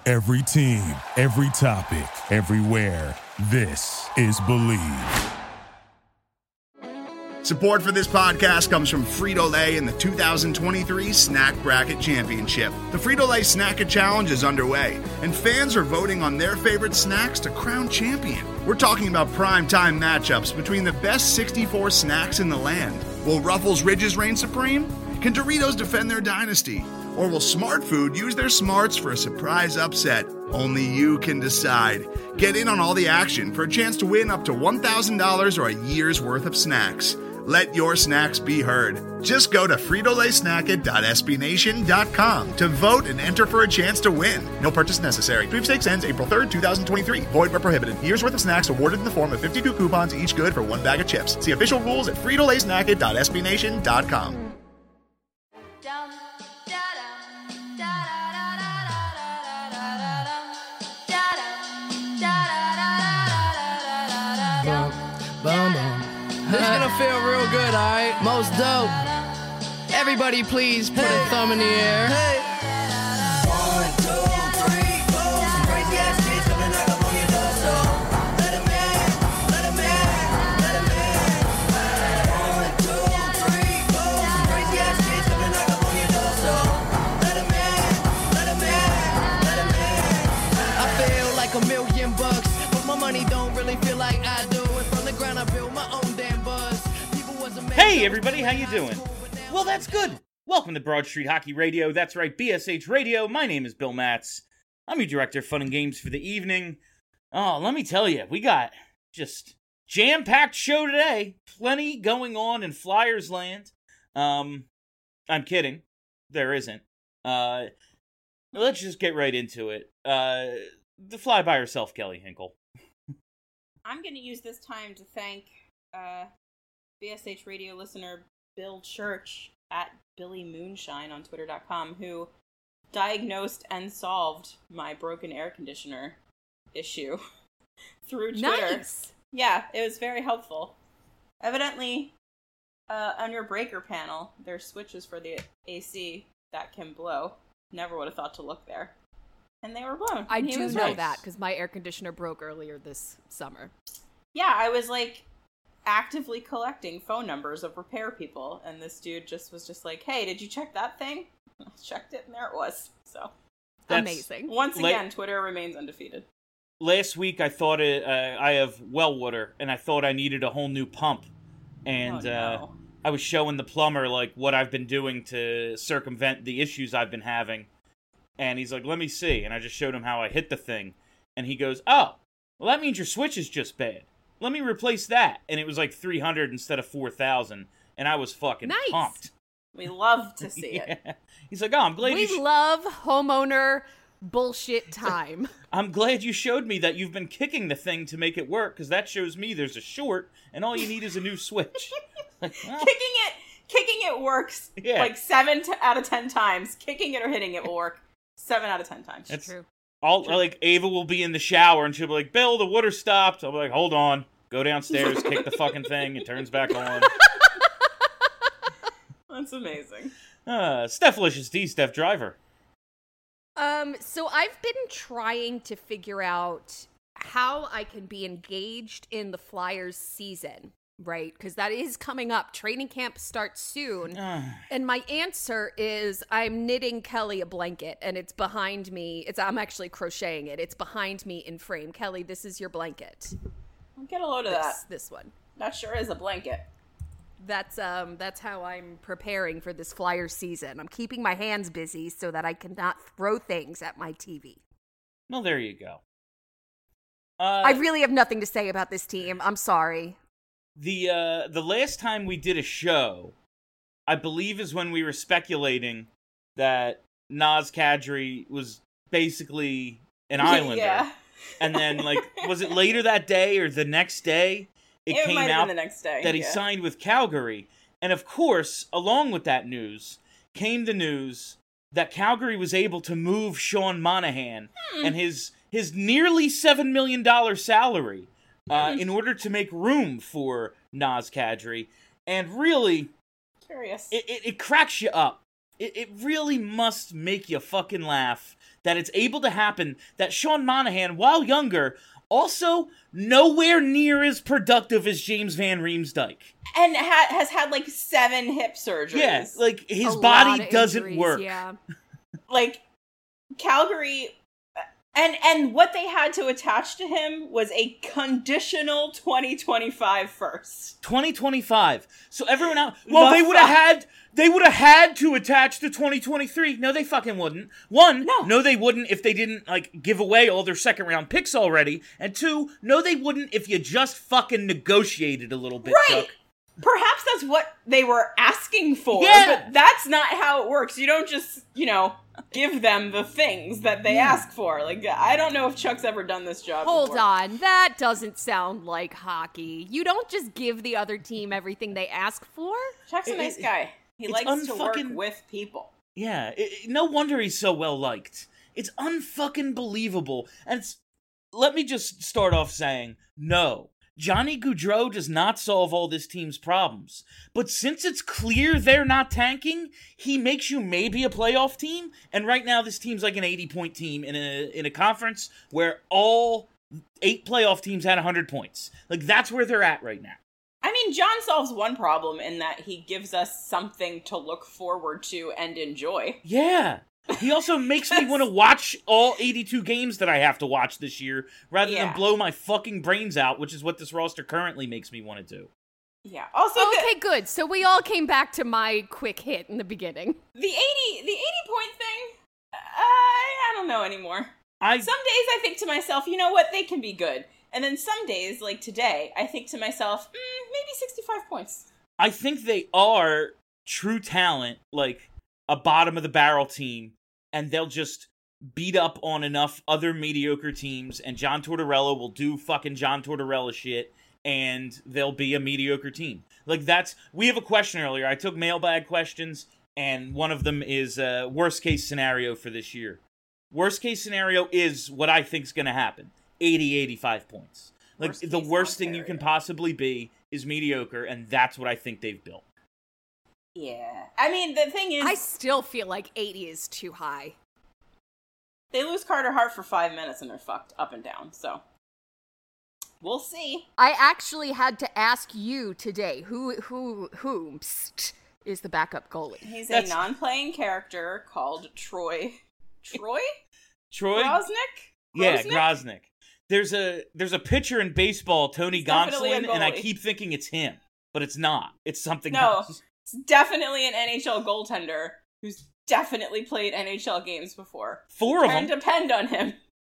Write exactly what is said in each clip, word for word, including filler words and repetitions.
Every team, every topic, everywhere. This is Believe. Support for this podcast comes from Frito-Lay and the two thousand twenty-three Snack Bracket Championship. The Frito-Lay Snack-It Challenge is underway, and fans are voting on their favorite snacks to crown champion. We're talking about prime-time matchups between the best sixty-four snacks in the land. Will Ruffles Ridges reign supreme? Can Doritos defend their dynasty? Or will Smart Food use their smarts for a surprise upset? Only you can decide. Get in on all the action for a chance to win up to one thousand dollars or a year's worth of snacks. Let your snacks be heard. Just go to Frito Lay Snack It dot S B Nation dot com to vote and enter for a chance to win. No purchase necessary. Sweepstakes ends April third, twenty twenty-three. Void where prohibited. Year's worth of snacks awarded in the form of fifty-two coupons, each good for one bag of chips. See official rules at Frito Lay Snack It dot S B Nation dot com. This is gonna feel real good, alright? Most dope. Everybody please put hey. a thumb in the air. Hey. One, two, three, four. Some crazy ass shit coming knock up on your door. So let him in, let him in, let him in. One, two, three, four. Some crazy ass shit coming knock up on your door. So let him in, let him in, let him in. I feel like a million bucks, but my money don't really feel like I do. And from the ground I build my own. Hey everybody, how you doing? Well, that's good. Welcome to Broad Street Hockey Radio. That's right, B S H Radio. My name is Bill Matz. I'm your director of fun and games for the evening. Oh, let me tell you, we got just jam-packed show today. Plenty going on in Flyers land. Um, I'm kidding. There isn't. Uh, let's just get right into it. Uh, the fly by herself, Kelly Hinkle. I'm going to use this time to thank uh, B S H Radio listener Bill Church at Billy Moonshine on twitter dot com, who diagnosed and solved my broken air conditioner issue through Twitter. Nice. Yeah, it was very helpful. Evidently, uh, on your breaker panel, there's switches for the A C that can blow. Never would have thought to look there. And they were blown. I and he do was know right. that, because my air conditioner broke earlier this summer. Yeah, I was like actively collecting phone numbers of repair people, and this dude just was just like, hey, did you check that thing? I checked it, and there it was. So That's amazing. Once again, la- Twitter remains undefeated. Last week I thought it, uh, I have well water, and I thought I needed a whole new pump, and oh, no. uh, I was showing the plumber like what I've been doing to circumvent the issues I've been having, and he's like, let me see, and I just showed him how I hit the thing, and he goes, oh, well that means your switch is just bad. Let me replace that. And it was like three hundred instead of four thousand. And I was fucking nice. pumped. We love to see yeah. it. He's like, oh, I'm glad we you... We sh- love homeowner bullshit time. I'm glad you showed me that you've been kicking the thing to make it work, because that shows me there's a short, and all you need is a new switch. Like, well, kicking it kicking it works yeah. like seven to, out of ten times. Kicking it or hitting it will work seven out of ten times. That's true. All, like, Ava will be in the shower, and she'll be like, Bill, the water stopped. I'll be like, hold on. Go downstairs, kick the fucking thing, it turns back on. That's amazing. Uh, Stephlicious D, Steph Driver. Um, so I've been trying to figure out how I can be engaged in the Flyers season, right? Because that is coming up. Training camp starts soon. And my answer is I'm knitting Kelly a blanket, and it's behind me. It's I'm actually crocheting it. It's behind me in frame. Kelly, this is your blanket. Get a load of this, that. This one. That sure is a blanket. That's um. That's how I'm preparing for this Flyers season. I'm keeping my hands busy so that I cannot throw things at my T V. Well, there you go. Uh, I really have nothing to say about this team. I'm sorry. The uh, the last time we did a show, I believe, is when we were speculating that Naz Kadri was basically an Islander. Yeah. And then, like, was it later that day or the next day? It, it came might have out been the next day, that he yeah. signed with Calgary. And of course, along with that news, came the news that Calgary was able to move Sean Monahan hmm. and his his nearly seven million dollars salary uh, hmm. in order to make room for Naz Kadri. And really, Curious. It, it, it cracks you up. It, it really must make you fucking laugh that it's able to happen, that Sean Monahan, while younger, also nowhere near as productive as James Van Riemsdyk. And ha- has had, like, seven hip surgeries. Yeah, like, his A body lot of doesn't injuries, work. Yeah. Like, Calgary... And and what they had to attach to him was a conditional twenty twenty-five first. twenty twenty-five. So everyone else, well, The they would have fuck? had, they would have had to attach to twenty twenty-three. No, they fucking wouldn't. One, No. no, they wouldn't if they didn't, like, give away all their second round picks already. And two, no, they wouldn't if you just fucking negotiated a little bit, Right. Chuck. Perhaps that's what they were asking for, Yeah. but that's not how it works. You don't just, you know, give them the things that they ask for. Like, I don't know if Chuck's ever done this job Hold before. on, that doesn't sound like hockey. You don't just give the other team everything they ask for. Chuck's a It- nice it- guy. He it's likes to work unfucking- with people. Yeah, it, it- no wonder he's so well liked. It's unfucking believable. And it's, let me just start off saying, no, Johnny Gaudreau does not solve all this team's problems. But since it's clear they're not tanking, he makes you maybe a playoff team. And right now, this team's like an eighty-point team in a in a conference where all eight playoff teams had one hundred points. Like, that's where they're at right now. I mean, John solves one problem in that he gives us something to look forward to and enjoy. Yeah. He also makes me want to watch all eighty-two games that I have to watch this year, rather Yeah. than blow my fucking brains out, which is what this roster currently makes me want to do. Yeah. Also, Okay, the, good. So we all came back to my quick hit in the beginning. the eighty the eighty point thing, I, I don't know anymore. I Some days I think to myself, you know what, they can be good. And then some days, like today, I think to myself, mm, maybe sixty-five points. I think they are true talent, like a bottom of the barrel team, and they'll just beat up on enough other mediocre teams, and John Tortorella will do fucking John Tortorella shit, and they'll be a mediocre team. Like, that's, we have a question earlier. I took mailbag questions, and one of them is uh, worst case scenario for this year. Worst case scenario is what I think is going to happen. eighty, eighty-five points. Like, Worst the case worst thing you can Ontario. possibly be is mediocre, and that's what I think they've built. Yeah. I mean, the thing is, I still feel like eighty is too high. they lose Carter Hart for five minutes and they're fucked up and down, so. We'll see. I actually had to ask you today, who who who is the backup goalie? He's That's- a non-playing character called Troy. Troy? Troy? Grosnick? Yeah, Grosnick? Grosnick. There's a there's a pitcher in baseball, Tony He's definitely a Gonsolin, and I goalie. keep thinking it's him, but it's not. It's something No. else. It's definitely an N H L goaltender who's definitely played N H L games before. Four of Can them. depend on him.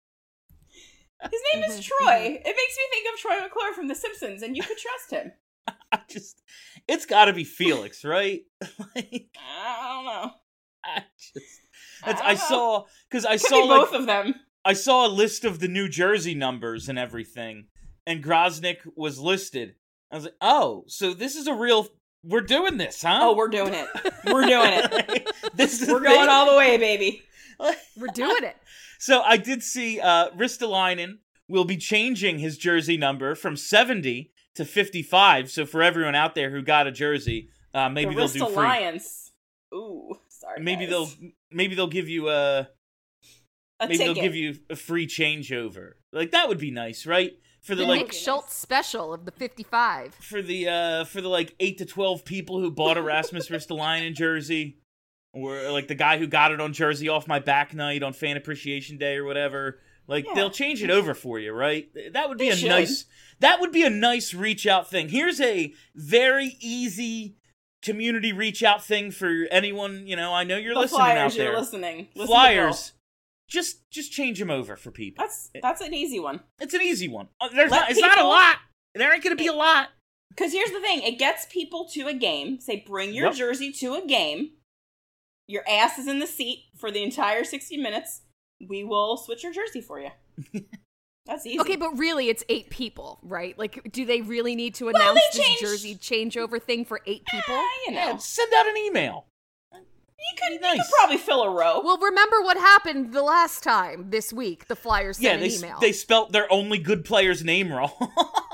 His name is Troy. It makes me think of Troy McClure from The Simpsons, and you could trust him. I just, it's got to be Felix, right? like, I don't know. I just, that's, I I, don't know. saw because I Could saw be like, both of them. I saw a list of the New Jersey numbers and everything, and Grosnick was listed. I was like, oh, so this is a real. We're doing this, huh? Oh, we're doing it. We're doing it. this is We're the going thing. all the way, baby. We're doing it. So I did see uh, Ristolainen will be changing his jersey number from seventy to fifty-five. So for everyone out there who got a jersey, uh, maybe the they'll do free. Alliance. Ooh, sorry. Maybe guys. they'll maybe they'll give you a a maybe ticket. they'll give you a free changeover. Like that would be nice, right? For the The like Nick Schultz special of the fifty-five. for the uh for the like eight to twelve people who bought a Rasmus Ristolainen jersey, or like the guy who got it on jersey off my back night on Fan Appreciation Day or whatever. Like Yeah. they'll change it over for you, right? That would be They a should. nice that would be a nice reach out thing. Here's a very easy community reach out thing for anyone, you know, I know you're the listening Flyers, out there. you're listening. Listen to Flyers. Just just change them over for people. That's that's an easy one. It's an easy one. Uh, There's Let not, it's not a people- lot. There ain't going to be a lot. Because here's the thing: it gets people to a game. Say, bring your Yep. jersey to a game. Your ass is in the seat for the entire sixty minutes. We will switch your jersey for you. That's easy. Okay, but really, it's eight people, right? Like, do they really need to Well, announce they this changed- jersey changeover thing for eight people? Eh, you know, Yeah, send out an email. you could, nice. you could probably fill a row. Well, remember what happened the last time this week? The Flyers Yeah, sent they an s- email. they spelt their only good player's name wrong.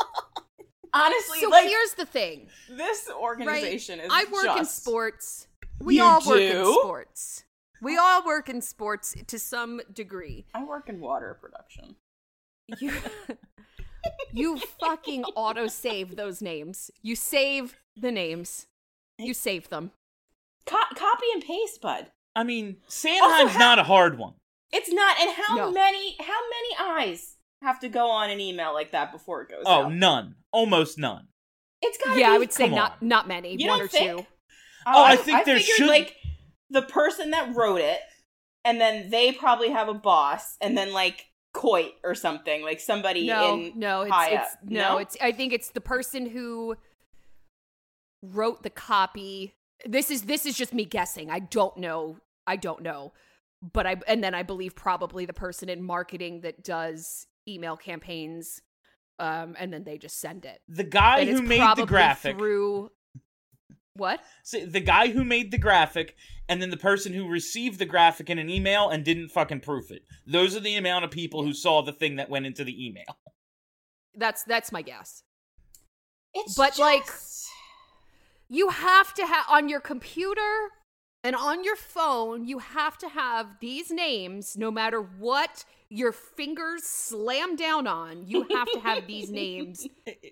Honestly, so like here's the thing, this right? organization is. I work in just- sports. We You all work in do? sports. We all work in sports to some degree. I work in water production. You, you fucking auto-save those names. You save the names. You save them. Co- copy and paste, bud. I mean, Sanheim's how- not a hard one. It's not. And how No. many? How many eyes have to go on an email like that before it goes Oh, out? none. Almost none. It's gotta Yeah, be. I would say come not on. not many. You one don't or think? two. Oh, I I think there figured, should- like the person that wrote it, and then they probably have a boss, and then like Coit or something, like somebody No, in no, it's, high it's up. no, No? it's. I think it's the person who wrote the copy. This is this is just me guessing. I don't know. I don't know, but I and then I believe probably the person in marketing that does email campaigns, um, and then they just send it. The guy And who it's made probably the graphic. through what? So the guy who made the graphic, and then the person who received the graphic in an email and didn't fucking proof it. Those are the amount of people who saw the thing that went into the email. That's that's my guess. It's But, just... like, You have to have on your computer and on your phone, you have to have these names no matter what your fingers slam down on. You have to have these names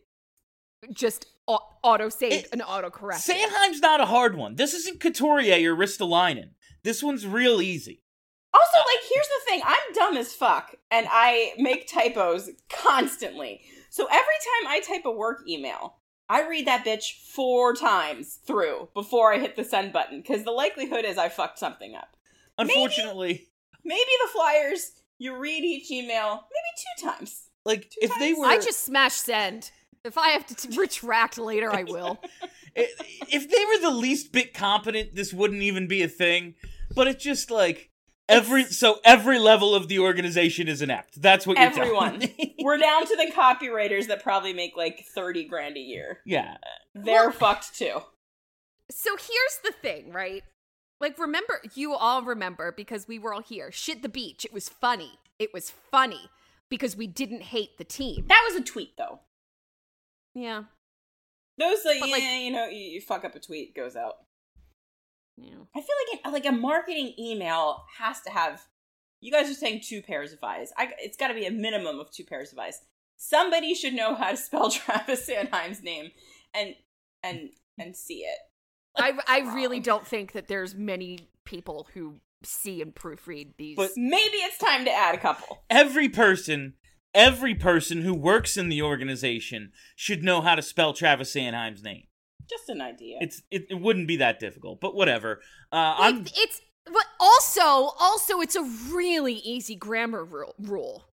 just auto saved and auto corrected. Sanheim's not a hard one. This isn't Couturier or Ristolainen. This one's real easy. Also, like, here's the thing. I'm dumb as fuck, and I make typos constantly. So every time I type a work email, I read that bitch four times through before I hit the send button, because the likelihood is I fucked something up. Unfortunately, Maybe, maybe the Flyers, you read each email maybe two times. like, Two if they times. were... I just smash send. If I have to t- retract later, I will. If they were the least bit competent, this wouldn't even be a thing. But it's just like... Every so every level of the organization is inept. That's what you're Everyone. telling me. We're down to the copywriters that probably make like thirty grand a year. Yeah. They're Well- fucked too. So here's the thing, right? Like, remember, you all remember because we were all here. Shit the beach. It was funny. It was funny because we didn't hate the team. That was a tweet though. Yeah. Those like, But, like- yeah, you know, you, you fuck up a tweet, goes out. Yeah. I feel like it, like a marketing email has to have. You guys are saying two pairs of eyes. I, it's got to be a minimum of two pairs of eyes. Somebody should know how to spell Travis Sanheim's name and and and see it. I, I really don't think that there's many people who see and proofread these. But- Maybe it's time to add a couple. Every person, every person who works in the organization should know how to spell Travis Sanheim's name. Just an idea. It's it, it wouldn't be that difficult, but whatever. Uh, Like, I'm it's but also also it's a really easy grammar rule, rule.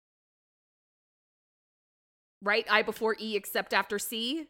Right? I before E except after C.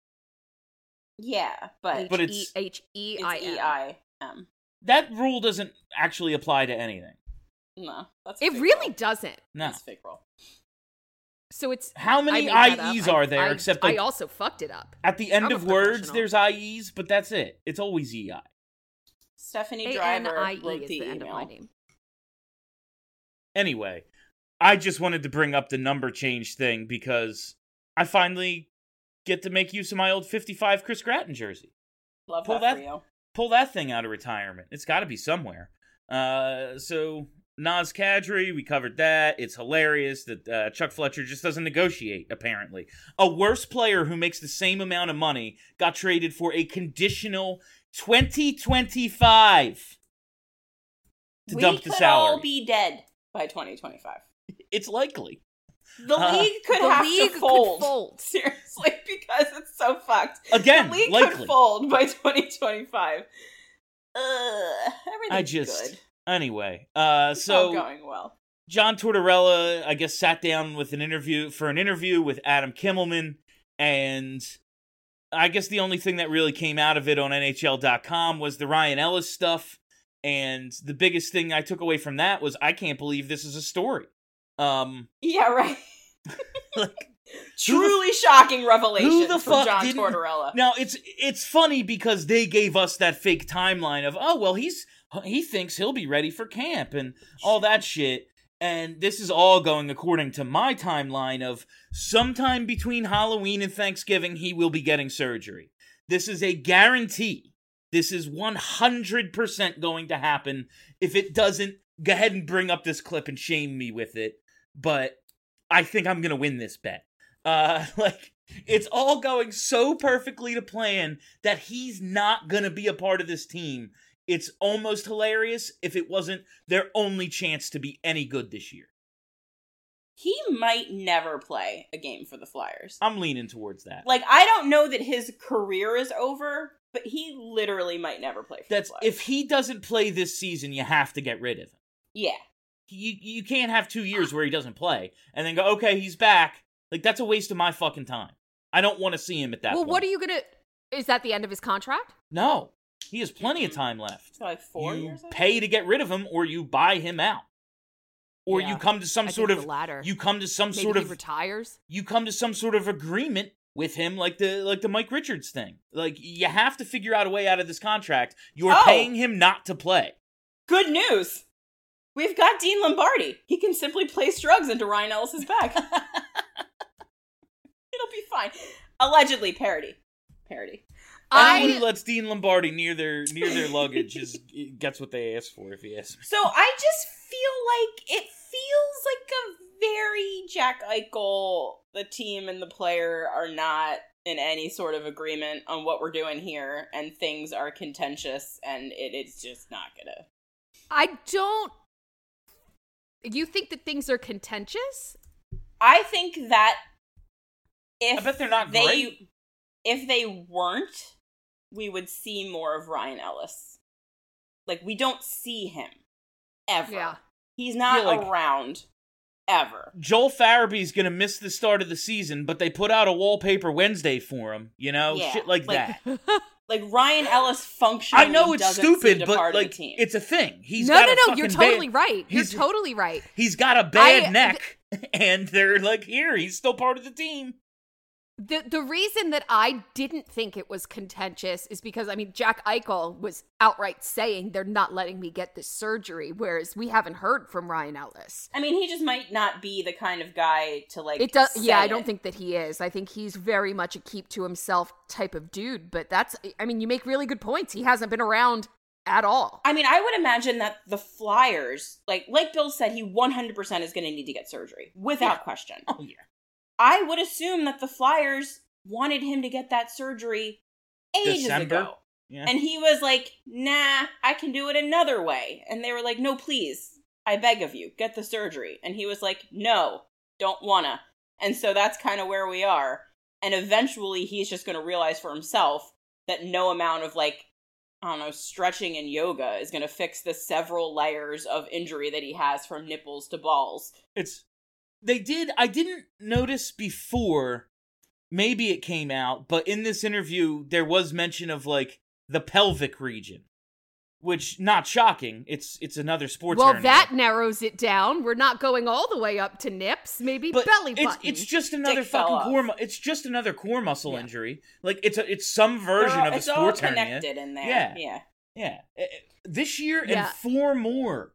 yeah, but But H it's- E H E it's I E M. I M. that rule doesn't actually apply to anything. No, that's a It fake really roll. doesn't. No. That's a fake roll. So it's How I many made that up. I Es I- are there? I, except I like, also fucked it up. at the end I'm a of words, professional. there's I Es, but that's it. It's always E I. Stephanie A N Driver I E wrote is the, the email. end of my name. Anyway, I just wanted to bring up the number change thing because I finally get to make use of my old fifty-five Chris Gratton jersey. Love Pull that, that- for you. Pull that thing out of retirement. It's got to be somewhere. Uh, so Naz Kadri, we covered that. It's hilarious that uh, Chuck Fletcher just doesn't negotiate, apparently. A worse player who makes the same amount of money got traded for a conditional twenty twenty-five to we dump the could salary. all be dead by twenty twenty-five. It's likely. The Uh, league could the have league to could fold. fold. Seriously, because it's so fucked. Again, the league likely. could fold by twenty twenty-five. Uh, everything's I just... good. Anyway, uh, It's all so... going well. John Tortorella, I guess, sat down with an interview for an interview with Adam Kimmelman, and I guess the only thing that really came out of it on N H L dot com was the Ryan Ellis stuff, and the biggest thing I took away from that was I can't believe this is a story. Um, Yeah, right. like, Truly shocking revelation who the from fuck John didn't- Tortorella. now it's it's funny because they gave us that fake timeline of oh well he's he thinks he'll be ready for camp and all that shit. And this is all going according to my timeline of sometime between Halloween and Thanksgiving, he will be getting surgery. This is a guarantee This is one hundred percent going to happen. If it doesn't, go ahead and bring up this clip and shame me with it. But I think I'm going to win this bet. Uh, like, it's all going so perfectly to plan that he's not going to be a part of this team. It's almost hilarious if it wasn't their only chance to be any good this year. He might never play a game for the Flyers. I'm leaning towards that. Like, I don't know that his career is over, but he literally might never play for That's the Flyers. if he doesn't play this season, you have to get rid of him. Yeah. You you can't have two years where he doesn't play and then go, okay, he's back. Like, that's a waste of my fucking time. I don't want to see him at that well, point. what are you going to... Is that the end of his contract? No. He has plenty of time left. So like four you years? I pay think? to get rid of him, or you buy him out. Or Yeah, you come to some I sort think of... the latter. You come to some Maybe sort he of... retires? You come to some sort of agreement with him, like the like the Mike Richards thing. Like, you have to figure out a way out of this contract. You're Oh. paying him not to play. Good news! We've got Dean Lombardi. He can simply place drugs into Ryan Ellis's bag. It'll be fine. Allegedly, parody. Parody. Anyone I... who lets Dean Lombardi near their near their luggage is gets what they ask for, if you ask me. So I just feel like it feels like a very Jack Eichel, the team and the player are not in any sort of agreement on what we're doing here, and things are contentious, and it is just not gonna. I don't... You think that things are contentious? I think that if I bet they're not they, great. if they weren't, we would see more of Ryan Ellis. Like, we don't see him ever. Yeah. He's not Yeah, like- around ever. Joel Farabee's gonna miss the start of the season, but they put out a wallpaper Wednesday for him, you know? Yeah, Shit like, like- that. Like, Ryan Ellis functionally I know it's doesn't seem stupid, to but part of like the team. it's a thing. He's no, got no, a no, fucking you're totally bad, right. You're he's- totally right. He's got a bad I- neck, and they're like, here, he's still part of the team. The the reason that I didn't think it was contentious is because, I mean, Jack Eichel was outright saying they're not letting me get this surgery, whereas we haven't heard from Ryan Ellis. I mean, he just might not be the kind of guy to, like, It does, say yeah, I it. don't think that he is. I think he's very much a keep to himself type of dude, but that's, I mean, you make really good points. He hasn't been around at all. I mean, I would imagine that the Flyers, like like Bill said, he one hundred percent is going to need to get surgery, without Yeah. question. Oh yeah. I would assume that the Flyers wanted him to get that surgery ages December? ago. Yeah. And he was like, nah, I can do it another way. And they were like, no, please, I beg of you, get the surgery. And he was like, no, don't wanna. And so that's kind of where we are. And eventually he's just going to realize for himself that no amount of, like, I don't know, stretching and yoga is going to fix the several layers of injury that he has from nipples to balls. It's they did I didn't notice before, maybe it came out, but in this interview there was mention of like the pelvic region, which not shocking. It's it's another sports Well, hernia. that narrows it down. We're not going all the way up to nips, maybe but belly it's, button. it's just another Dick fell fucking off. core mu- it's just another core muscle Yeah. injury. Like it's a it's some version They're all- of a it's all sports hernia. connected in there. Yeah. Yeah. Yeah. Eh, eh, This year Yeah. and four more.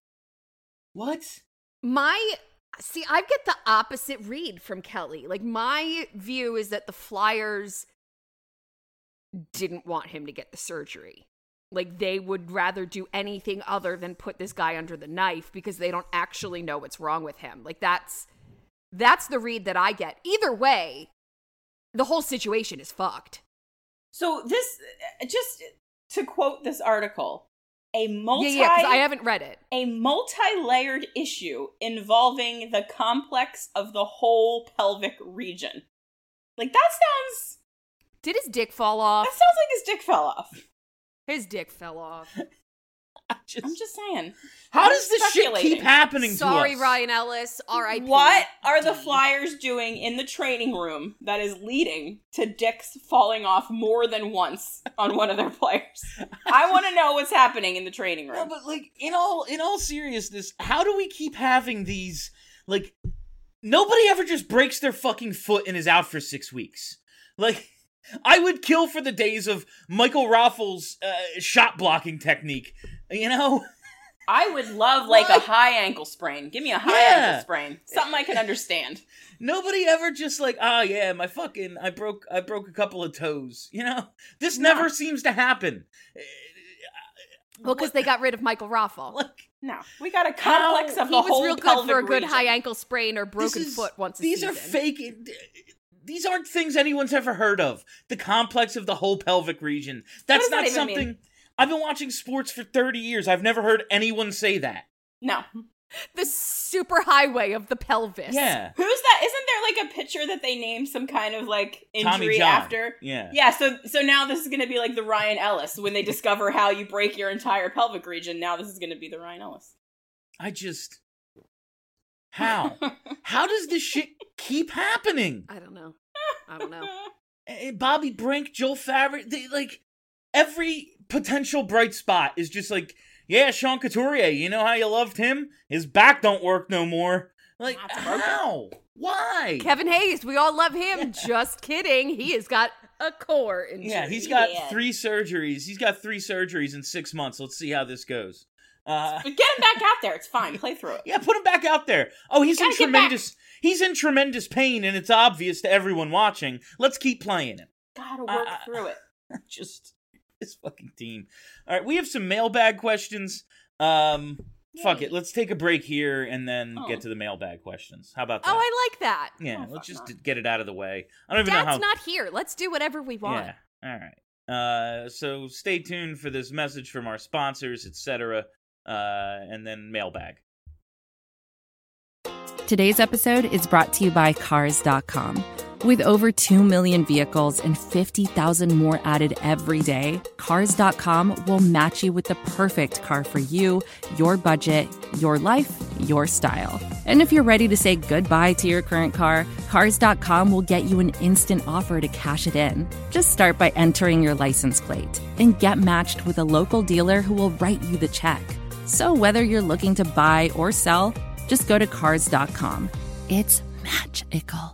What? My see, I get the opposite read from Kelly. Like, my view is that the Flyers didn't want him to get the surgery. Like, they would rather do anything other than put this guy under the knife because they don't actually know what's wrong with him. Like, that's that's the read that I get. Either way, the whole situation is fucked. So this, just to quote this article, a multi Yeah, yeah, because I haven't read it. a multi-layered issue involving the complex of the whole pelvic region. Like, that sounds Did his dick fall off? that sounds like his dick fell off. His dick fell off. I just, I'm just saying. how I'm does this shit keep speculating. happening Sorry, to us? Ryan Ellis. R I P What are the Flyers doing in the training room that is leading to dicks falling off more than once on one of their players? I want to know what's happening in the training No, room. but like in all in all seriousness, how do we keep having these like nobody ever just breaks their fucking foot and is out for six weeks? Like I would kill for the days of Michael Raffles' uh, shot blocking technique. You know? I would love like Why? a high ankle sprain. Give me a high Yeah. ankle sprain. Something I can understand. Nobody ever just like, oh yeah, my fucking, I broke, I broke a couple of toes. You know, this No. never seems to happen. Well, because they got rid of Michael Raffle. Like, No, we got a complex How- of He the was whole real good pelvic for a good region. high ankle sprain or this broken is- foot once a These season. are fake. These aren't things anyone's ever heard of. The complex of the whole pelvic region. That's does that not even something. mean? I've been watching sports for thirty years. I've never heard anyone say that. No. The super highway of the pelvis. Yeah. Who's that? Isn't there like a picture that they named some kind of like Tommy injury John. after? Yeah. Yeah, so so now this is going to be like the Ryan Ellis. When they discover how you break your entire pelvic region, now this is going to be the Ryan Ellis. I just. How? How does this shit keep happening? I don't know. I don't know. Eh, Bobby Brink, Joel Favre, they, like, every potential bright spot is just like, yeah, Sean Couturier, you know how you loved him? His back don't work no more. Like, That's broken. how? Why? Kevin Hayes, we all love him. Just kidding. He has got a core injury. Yeah, he's got Yeah. three surgeries. He's got three surgeries in six months. Let's see how this goes. Uh, But get him back out there. It's fine. Play through it. yeah, put him back out there. Oh, he's in Gotta get tremendous. He's in tremendous pain, and it's obvious to everyone watching. Let's keep playing him. Gotta work Uh, through it. Just this fucking team. All right, we have some mailbag questions. Um, fuck Yay. it. Let's take a break here and then Oh. get to the mailbag questions. How about that? Oh, I like that. yeah, Oh, let's fuck just not. get it out of the way. I don't even Dad's know how. not here. Let's do whatever we want. Yeah. All right. Uh, so stay tuned for this message from our sponsors, et cetera. Uh, and then mailbag. Today's episode is brought to you by Cars dot com. With over two million vehicles and fifty thousand more added every day, Cars dot com will match you with the perfect car for you, your budget, your life, your style. And if you're ready to say goodbye to your current car, Cars dot com will get you an instant offer to cash it in. Just start by entering your license plate and get matched with a local dealer who will write you the check. So whether you're looking to buy or sell, just go to Cars dot com. It's magical.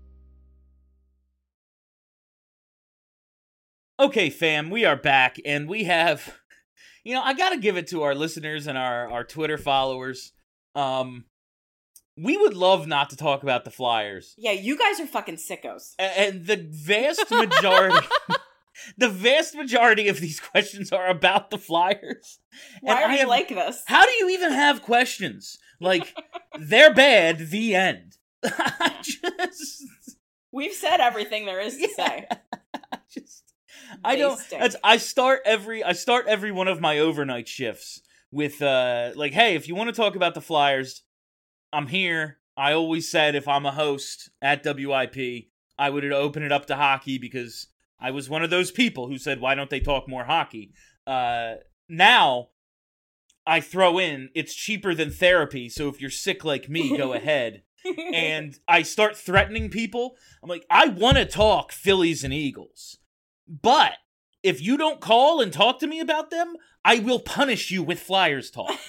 Okay, fam, we are back, and we have, you know, I gotta give it to our listeners and our, our Twitter followers. Um, we would love not to talk about the Flyers. Yeah, you guys are fucking sickos. A- And the vast majority, the vast majority of these questions are about the Flyers. Why And are I you have- like this? How do you even have questions? Like, they're bad, the end. I just, We've said everything there is to say. I just, I They don't, stink. that's, I start every, I start every one of my overnight shifts with, uh, like, hey, if you want to talk about the Flyers, I'm here. I always said if I'm a host at W I P, I would open it up to hockey because I was one of those people who said, why don't they talk more hockey? Uh, now, I throw in, it's cheaper than therapy, so if you're sick like me, go ahead. And I start threatening people. I'm like, I want to talk Phillies and Eagles, but if you don't call and talk to me about them, I will punish you with Flyers talk.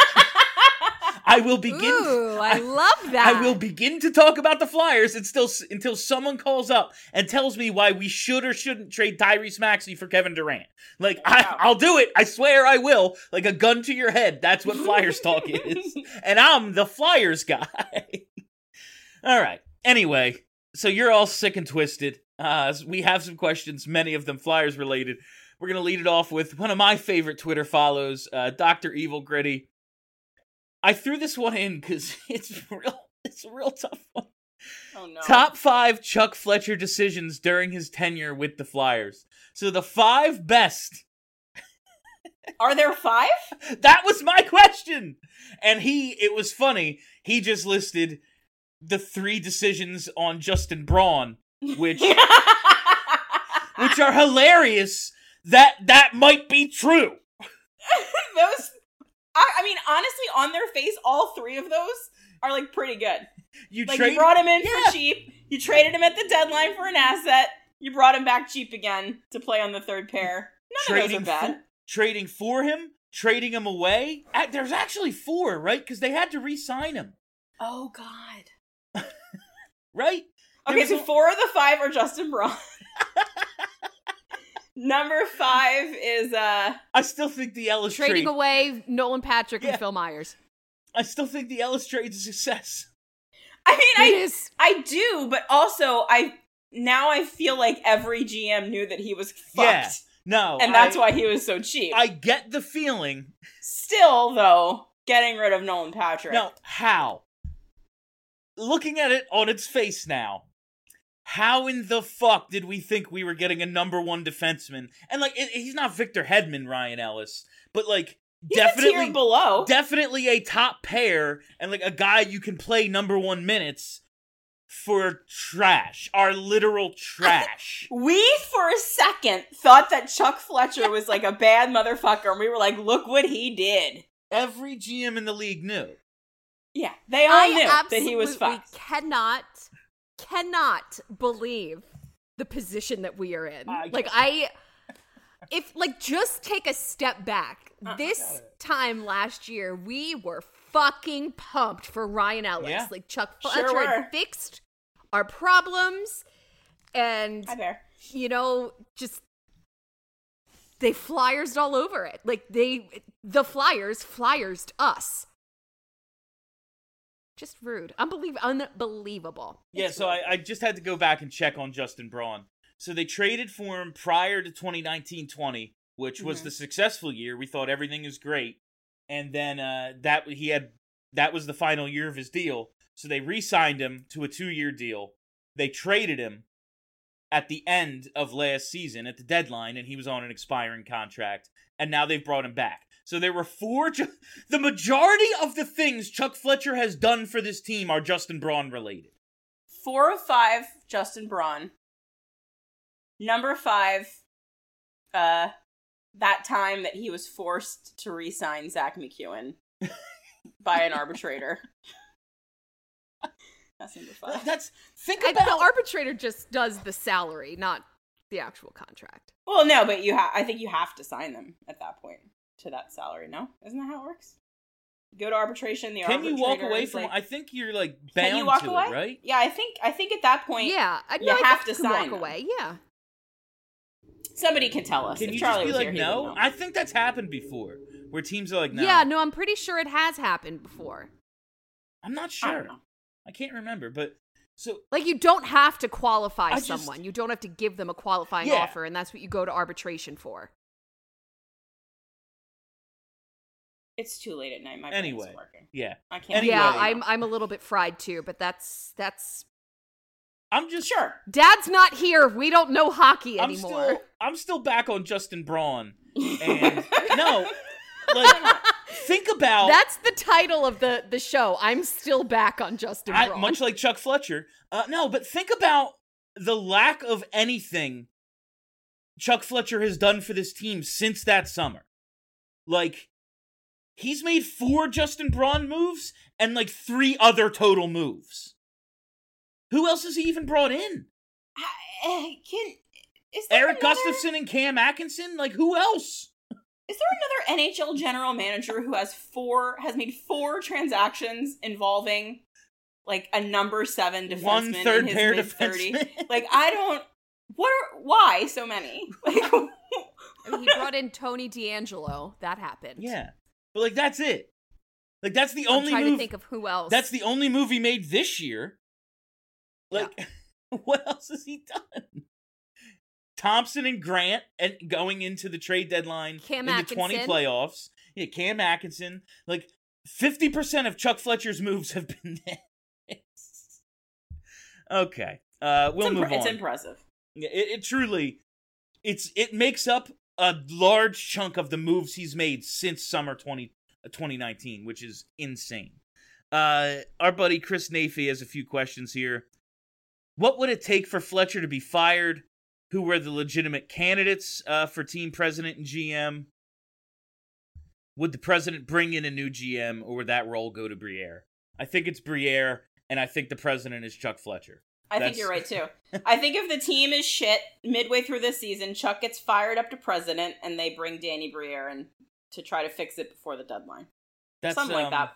I will begin. Ooh, I love that. I will begin to talk about the Flyers until until someone calls up and tells me why we should or shouldn't trade Tyrese Maxey for Kevin Durant. Like, I, I'll do it. I swear I will. Like a gun to your head. That's what Flyers talk is. And I'm the Flyers guy. All right. Anyway, so you're all sick and twisted. Uh, we have some questions, many of them Flyers related. We're going to lead it off with one of my favorite Twitter follows, uh, Doctor Evil Gritty. I threw this one in because it's real. It's a real tough one. Oh no. Top five Chuck Fletcher decisions during his tenure with the Flyers. So the five best. Are there five? That was my question. And he, it was funny. He just listed the three decisions on Justin Braun, which which are hilarious. That that might be true. Those, I, I mean, honestly, on their face, all three of those are like pretty good. You Like trade you brought him in Yeah. for cheap. You traded him at the deadline for an asset. You brought him back cheap again to play on the third pair. None of those are bad. For, trading for him, trading him away. Uh, There's actually four, right? Because they had to re-sign him, Oh God. right? There Okay, was so a- four of the five are Justin Braun. Number five is uh I still think the Ellis Trading trade. away Nolan Patrick Yeah. and Phil Myers. I still think the Ellis trade's a success. I mean It I is. I do, but also I now I feel like every G M knew that he was fucked. Yeah. No. And that's I, why he was so cheap. I get the feeling. Still, though, getting rid of Nolan Patrick. No, how? Looking at it on its face now, how in the fuck did we think we were getting a number one defenseman? And, like, it, he's not Victor Hedman, Ryan Ellis, but, like, He's a definitely tier below. definitely a top pair and, like, a guy you can play number one minutes for trash. Our literal trash. We, for a second, thought that Chuck Fletcher was like a bad motherfucker, and we were like, look what he did. Every G M in the league knew. Yeah, they all I knew that he was absolutely fucked. cannot, cannot believe the position that we are in. I like, I, if, like, just take a step back. Uh, this time last year, we were fucking pumped for Ryan Ellis. Yeah. Like, Chuck Sure Fletcher were. had fixed our problems, and, Hi there. you know, just, they Flyers all over it. Like, they, the Flyers Flyers us. Just rude. Unbelie- unbelievable. Yeah, so I, I just had to go back and check on Justin Braun. So they traded for him prior to twenty nineteen twenty, which was Mhm. the successful year. We thought everything was great. And then uh, that he had that was the final year of his deal. So they re-signed him to a two-year deal. They traded him at the end of last season at the deadline, and he was on an expiring contract. And now they've brought him back. So there were four. Ju- the majority of the things Chuck Fletcher has done for this team are Justin Braun related. Four of five, Justin Braun. Number five, uh, that time that he was forced to re-sign Zach McEwen by an arbitrator. That's number five. That's think I, about the arbitrator just does the salary, not the actual contract. Well, no, but you ha- I think you have to sign them at that point to that salary, no? Isn't that how it works? Go to arbitration, the Can arbitrator you walk away is from? like, I think you're like bound can you walk to away? it, right? Yeah, I think I think at that point, Yeah, I you no, I have think to you can sign walk them. away. Yeah, somebody can tell us. Can if you Charlie just be was like, here, he no? would know. I think that's happened before, where teams are like, no. yeah. No, I'm pretty sure it has happened before. I'm not I sure. don't know. I can't remember, but so Like, you don't have to qualify I just- someone. You don't have to give them a qualifying Yeah. offer, and that's what you go to arbitration for. It's too late at night. My brain's anyway, working. yeah. I can't. Anyway. Yeah, I'm I'm a little bit fried too, but that's that's. I'm just Sure. Dad's not here. We don't know hockey I'm anymore. still I'm still back on Justin Braun, and no, like think about That's the title of the the show. I'm still back on Justin I, Braun. much like Chuck Fletcher. Uh, no, but think about the lack of anything Chuck Fletcher has done for this team since that summer. Like, he's made four Justin Braun moves and like three other total moves. Who else has he even brought in? I, can is there Eric another, Gustafson and Cam Atkinson? Like, who else? Is there another N H L general manager who has four has made four transactions involving like a number seven defenseman One third in his pair mid thirty? defenseman. Like, I don't. What? Are, why so many? Like, I mean, he brought in Tony D'Angelo. That happened. Yeah. But like, that's it. Like, that's the I'm only trying move. to think of who else. That's the only move he made this year. Like, what else has he done? Thompson and Grant and going into the trade deadline Cam in the twenty Atkinson. playoffs. Yeah, Cam Atkinson. Like, fifty percent of Chuck Fletcher's moves have been this. Okay. Uh, we'll it's, move impre- on. it's impressive. Yeah, It, it truly, it's it makes up a large chunk of the moves he's made since summer twenty, uh, twenty nineteen, which is insane. Uh, our buddy Chris Nafee has a few questions here. What would it take for Fletcher to be fired? Who were the legitimate candidates uh, for team president and G M? Would the president bring in a new G M, or would that role go to Briere? I think it's Briere, and I think the president is Chuck Fletcher. I That's- think you're right too. I think if the team is shit midway through this season, Chuck gets fired up to president, and they bring Danny Briere in to try to fix it before the deadline. That's, Something um, like that.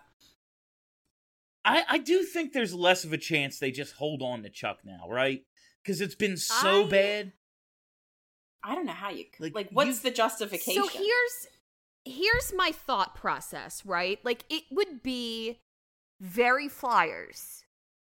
I, I do think there's less of a chance they just hold on to Chuck now, right? Because it's been so I- bad. I don't know how you Like, like. What's you've- the justification? So here's here's my thought process, right? Like, it would be very Flyers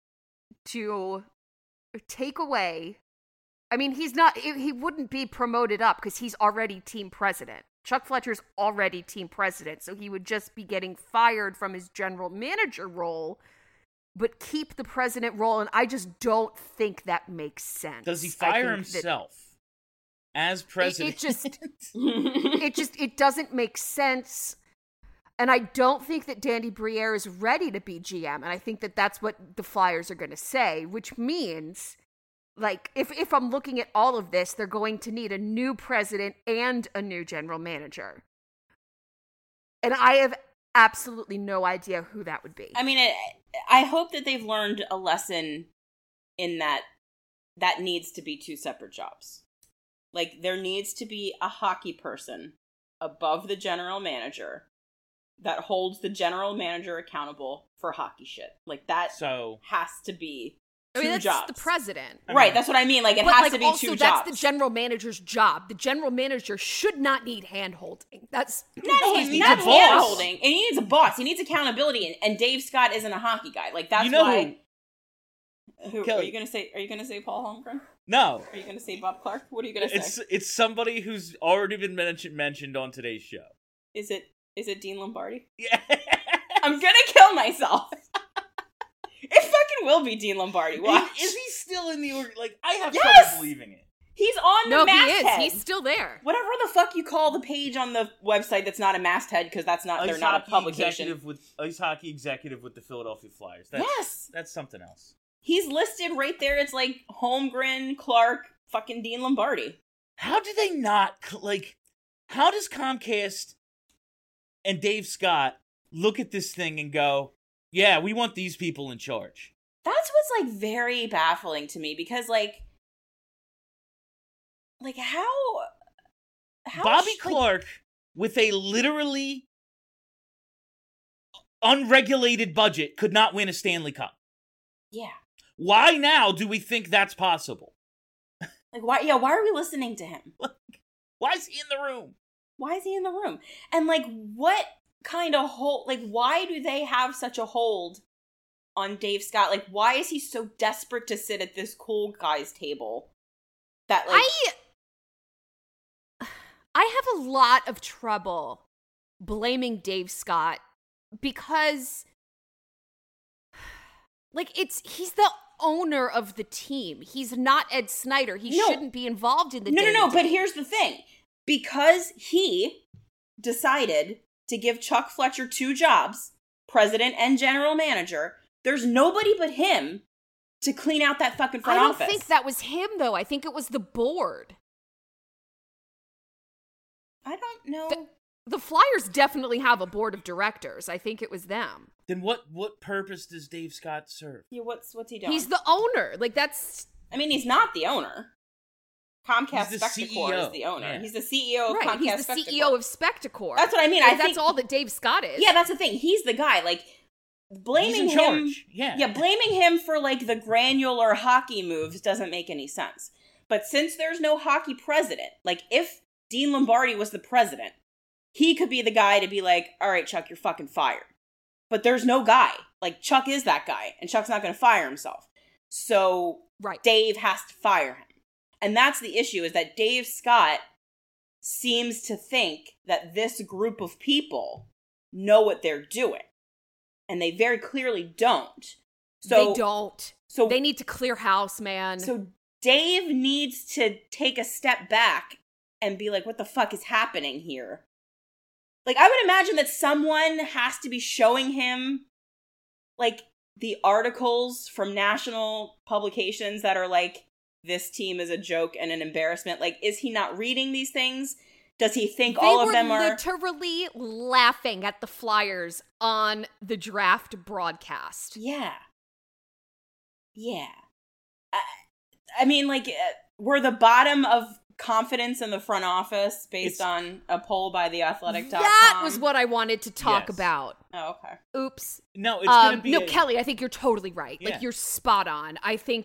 to take away. I mean, he's not. He wouldn't be promoted up because he's already team president. Chuck Fletcher's already team president, so he would just be getting fired from his general manager role, but keep the president role. And I just don't think that makes sense. Does he I fire think that- himself as president? It, it just, it just, it doesn't make sense. And I don't think that Danny Briere is ready to be G M. And I think that that's what the Flyers are going to say, which means, like, if, if I'm looking at all of this, they're going to need a new president and a new general manager. And I have absolutely no idea who that would be. I mean, it, I hope that they've learned a lesson in that that needs to be two separate jobs. Like, there needs to be a hockey person above the general manager that holds the general manager accountable for hockey shit. Like, that So has to be two I mean, that's jobs. the president. I Right, mean- that's what I mean. Like, it But has like, to be also, two that's jobs. the general manager's job. The general manager should not need hand-holding. That's Not, No, he hand, needs not a boss. hand-holding. And he needs a boss. He needs accountability. And, and Dave Scott isn't a hockey guy. Like, that's You know why... Who, are Kelly. you gonna say? Are you gonna say Paul Holmgren? no, Are you gonna say Bob Clark? What are you gonna say? it's it's somebody who's already been mentioned mentioned on today's show. Is it is it Dean Lombardi? Yeah. I'm gonna kill myself. It fucking will be Dean Lombardi. Watch. Is, is he still in the org? Like, I have Yes! trouble believing it. He's on the no, he masthead. is. He's still there. Whatever the fuck you call the page on the website that's not a masthead because that's not they're Ice not a hockey publication. executive with ice hockey executive with the Philadelphia Flyers. That's, Yes, that's something else. he's listed right there. It's like Holmgren, Clark, fucking Dean Lombardi. How do they not like? How does Comcast and Dave Scott look at this thing and go, "Yeah, we want these people in charge"? That's what's like very baffling to me because like, like how, how Bobby sh- like, Clark with a literally unregulated budget could not win a Stanley Cup. yeah, Why now do we think that's possible? like why? Yeah, why are we listening to him? Why is he in the room? Why is he in the room? And like, what kind of hold? Like, why do they have such a hold on Dave Scott? Like, why is he so desperate to sit at this cool guy's table? That like, I I have a lot of trouble blaming Dave Scott because, like, it's he's the owner of the team. He's not Ed Snyder. He No. shouldn't be involved in the no, no, no. But day-to-day. here's the thing: because he decided to give Chuck Fletcher two jobs, president and general manager, there's nobody but him to clean out that fucking front I don't office. think that was him, though. I think it was the board. I don't know. The, the Flyers definitely have a board of directors. I think it was them. Then what what purpose does Dave Scott serve? yeah, what's what's he doing? He's the owner. Like, that's I mean, he's not the owner. Comcast He's the Spectacor C E O. is the owner. Yeah. He's the C E O of right. Comcast He's the Spectacor. C E O of Spectacor. That's what I mean. Like, I that's think all that Dave Scott is. Yeah, that's the thing. He's the guy. Like blaming He's in him. charge. Yeah. Yeah, blaming him for like the granular hockey moves doesn't make any sense. But since there's no hockey president, like if Dean Lombardi was the president, he could be the guy to be like, all right, Chuck, you're fucking fired. But there's no guy. Like Chuck is that guy, and Chuck's not going to fire himself. So Right. Dave has to fire him. And that's the issue, is that Dave Scott seems to think that this group of people know what they're doing. And they very clearly don't. So they don't. So They need to clear house, man. so Dave needs to take a step back and be like, what the fuck is happening here? Like, I would imagine that someone has to be showing him, like, the articles from national publications that are like, this team is a joke and an embarrassment. Like, is he not reading these things? Does he think They all of were them are... literally laughing at the Flyers on the draft broadcast. Yeah. Yeah. I, I mean, like, uh, we're the bottom of confidence in the front office based It's- on a poll by the athletic dot com. That was what I wanted to talk Yes. about. Oh, okay. Oops. No, it's gonna Um, be no, a- Kelly, I think you're totally right. Yeah. Like, you're spot on. I think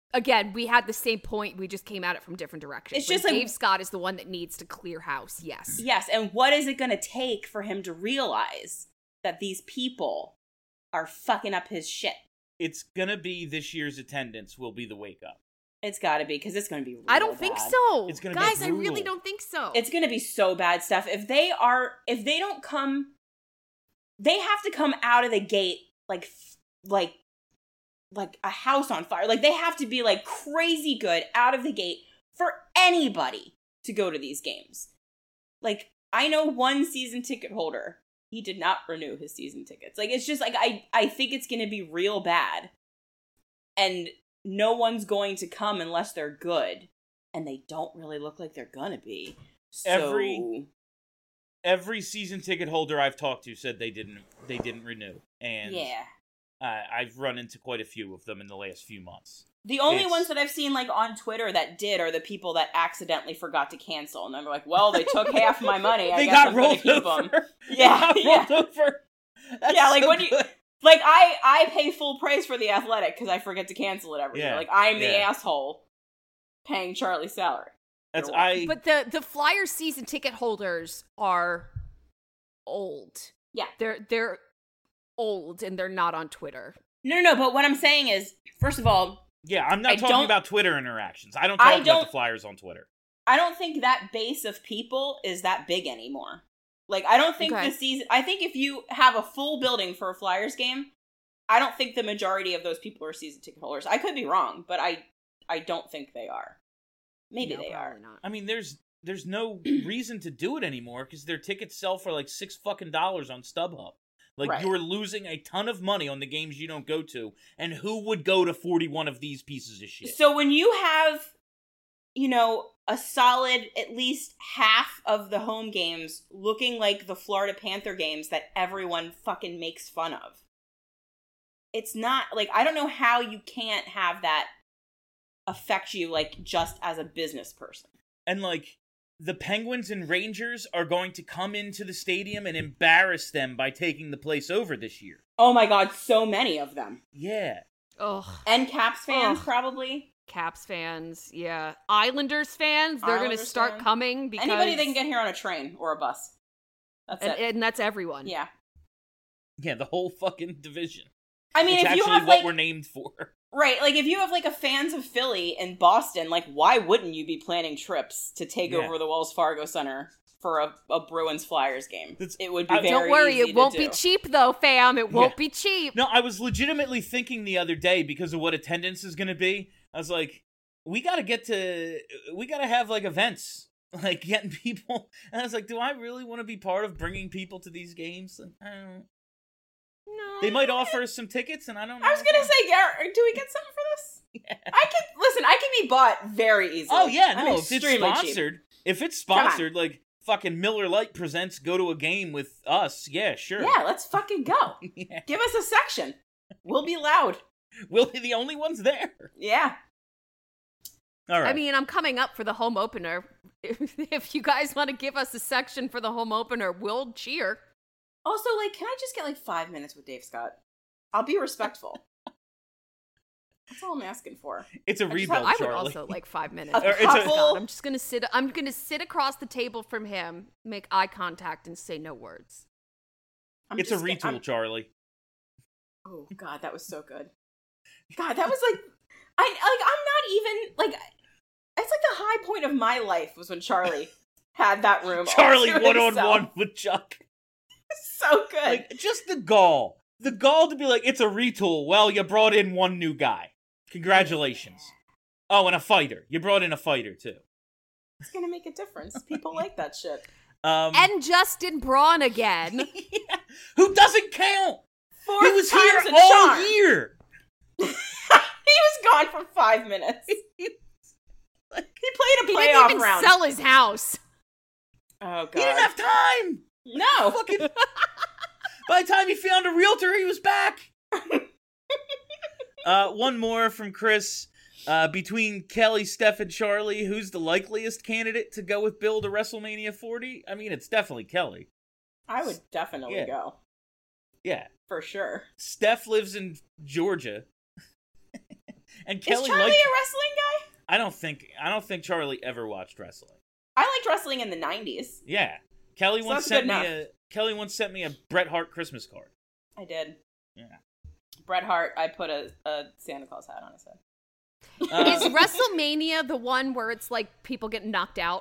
again, we had the same point. We just came at it from different directions. It's just like, like Dave Scott is the one that needs to clear house. Yes. Yes, and what is it going to take for him to realize that these people are fucking up his shit? It's gonna be this year's attendance will be the wake up. It's got to be, because it's going to be real I don't bad. think so. It's gonna be Guys, I brutal. really don't think so. It's going to be so bad stuff. If they are, if they don't come, they have to come out of the gate like, like, like a house on fire. Like, they have to be like crazy good out of the gate for anybody to go to these games. Like, I know one season ticket holder. He did not renew his season tickets. Like, it's just like, I, I think it's going to be real bad. And no one's going to come unless they're good. And they don't really look like they're gonna be. So... Every every season ticket holder I've talked to said they didn't they didn't renew. And yeah. uh, I've run into quite a few of them in the last few months. The only It's- ones that I've seen, like, on Twitter that did are the people that accidentally forgot to cancel. And they're like, well, they took half my money. I they guess got I'm gonna rolled keep over. them. They Yeah, got yeah. rolled over. That's Yeah, like, so when you- good. Like, I, I pay full price for The Athletic because I forget to cancel it every Yeah, year. Like, I'm the yeah. asshole paying Charlie's salary. That's You're I. But the the Flyers season ticket holders are old. Yeah. They're they're old and they're not on Twitter. No, no, no, but what I'm saying is, first of all, yeah, I'm not I talking don't- about Twitter interactions. I don't talk I about don't- the Flyers on Twitter. I don't think that base of people is that big anymore. Like, I don't think Okay. the season... I think if you have a full building for a Flyers game, I don't think the majority of those people are season ticket holders. I could be wrong, but I I don't think they are. Maybe No, they are. probably not. I mean, there's there's no reason to do it anymore because their tickets sell for like six fucking dollars on StubHub. Like, Right. you're losing a ton of money on the games you don't go to, and who would go to forty-one of these pieces of shit? So when you have, you know, a solid at least half of the home games looking like the Florida Panther games that everyone fucking makes fun of, it's not, like, I don't know how you can't have that affect you, like, just as a business person. And like, the Penguins and Rangers are going to come into the stadium and embarrass them by taking the place over this year. Oh my god, so many of them. Yeah. Ugh. And Caps fans, Ugh. probably. Caps fans, yeah. Islanders fans, they're going to Islanders start fan. coming because Anybody that can get here on a train or a bus. That's and, it. and that's everyone. Yeah. Yeah, the whole fucking division. I mean, it's if actually you have, what like... we're named for. Right, like, if you have, like, a fans of Philly and Boston, like, why wouldn't you be planning trips to take Yeah. over the Wells Fargo Center for a, a Bruins-Flyers game? That's- It would be uh, very Don't worry, easy it won't to be do. cheap though, fam. It won't Yeah. be cheap. No, I was legitimately thinking the other day because of what attendance is going to be. I was like, we got to get to, we got to have like events, like getting people. And I was like, do I really want to be part of bringing people to these games? Like, I don't. No. They might offer us some tickets, and I don't know. I was gonna say, Garrett, do we get something for this? Yeah. I can, listen, I can be bought very easily. Oh yeah, I'm no. If it's extremely cheap. sponsored, if it's Come on. sponsored, like fucking Miller Lite presents, go to a game with us. Yeah, sure. Yeah, let's fucking go. Yeah. Give us a section. We'll be loud. We'll be the only ones there. Yeah. All right. I mean, I'm coming up for the home opener. If, if you guys want to give us a section for the home opener, we'll cheer. Also, like, can I just get, like, five minutes with Dave Scott? I'll be respectful. That's all I'm asking for. it's a just rebuild, have- I would Charlie. also like five minutes. A Or it's a- couple... I'm just gonna sit. I'm gonna sit across the table from him, make eye contact, and say no words. I'm It's a just get- retool, I'm- Charlie. Oh god, that was so good. God, that was like, I like. I'm not even like. It's like the high point of my life was when Charlie had that room. all Charlie to one on himself. one with Chuck. So good. Like, just the gall. The gall to be like, it's a retool. Well, you brought in one new guy. Congratulations. Oh, and a fighter. You brought in a fighter, too. It's gonna make a difference. People like that shit. Um, And Justin Braun again. yeah, who doesn't count? Fourth He was here time's a all charm. year. He was gone for five minutes. He played a He playoff didn't even round. sell his house. Oh god. He didn't have time. no. Fucking. By the time he found a realtor, he was back. uh, one more from Chris. Uh, between Kelly, Steph, and Charlie, who's the likeliest candidate to go with Bill to WrestleMania forty? I mean, it's definitely Kelly. I would definitely Yeah. go. Yeah. For sure. Steph lives in Georgia. And Kelly Is Charlie liked, a wrestling guy? I don't think I don't think Charlie ever watched wrestling. I liked wrestling in the nineties. Yeah. Kelly So once that's sent good me enough. a Kelly once sent me a Bret Hart Christmas card. I did. Yeah. Bret Hart, I put a, a Santa Claus hat on his head. Uh, Is WrestleMania the one where it's like people get knocked out?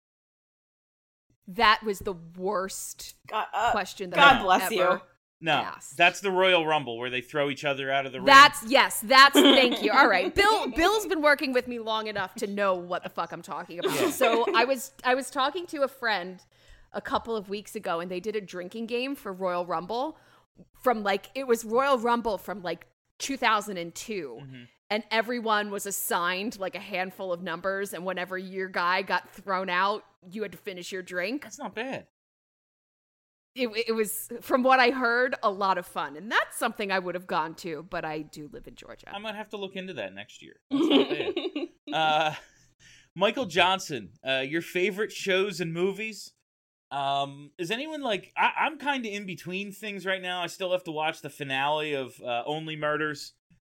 That was the worst God, uh, question that God I've bless ever you. no, asked. that's the Royal Rumble where they throw each other out of the ring. That's yes, that's thank you. All right. Bill Bill's been working with me long enough to know what the fuck I'm talking about. Yeah. So I was I was talking to a friend a couple of weeks ago and they did a drinking game for Royal Rumble from like it was Royal Rumble from like two thousand two. Mm-hmm. And everyone was assigned like a handful of numbers and whenever your guy got thrown out, you had to finish your drink. That's not bad. It, it was, from what I heard, a lot of fun. And that's something I would have gone to, but I do live in Georgia. I might have to look into that next year. That's not bad. uh, Michael Johnson, uh, your favorite shows and movies? Um, is anyone like, I, I'm kind of in between things right now. I still have to watch the finale of uh, Only Murders.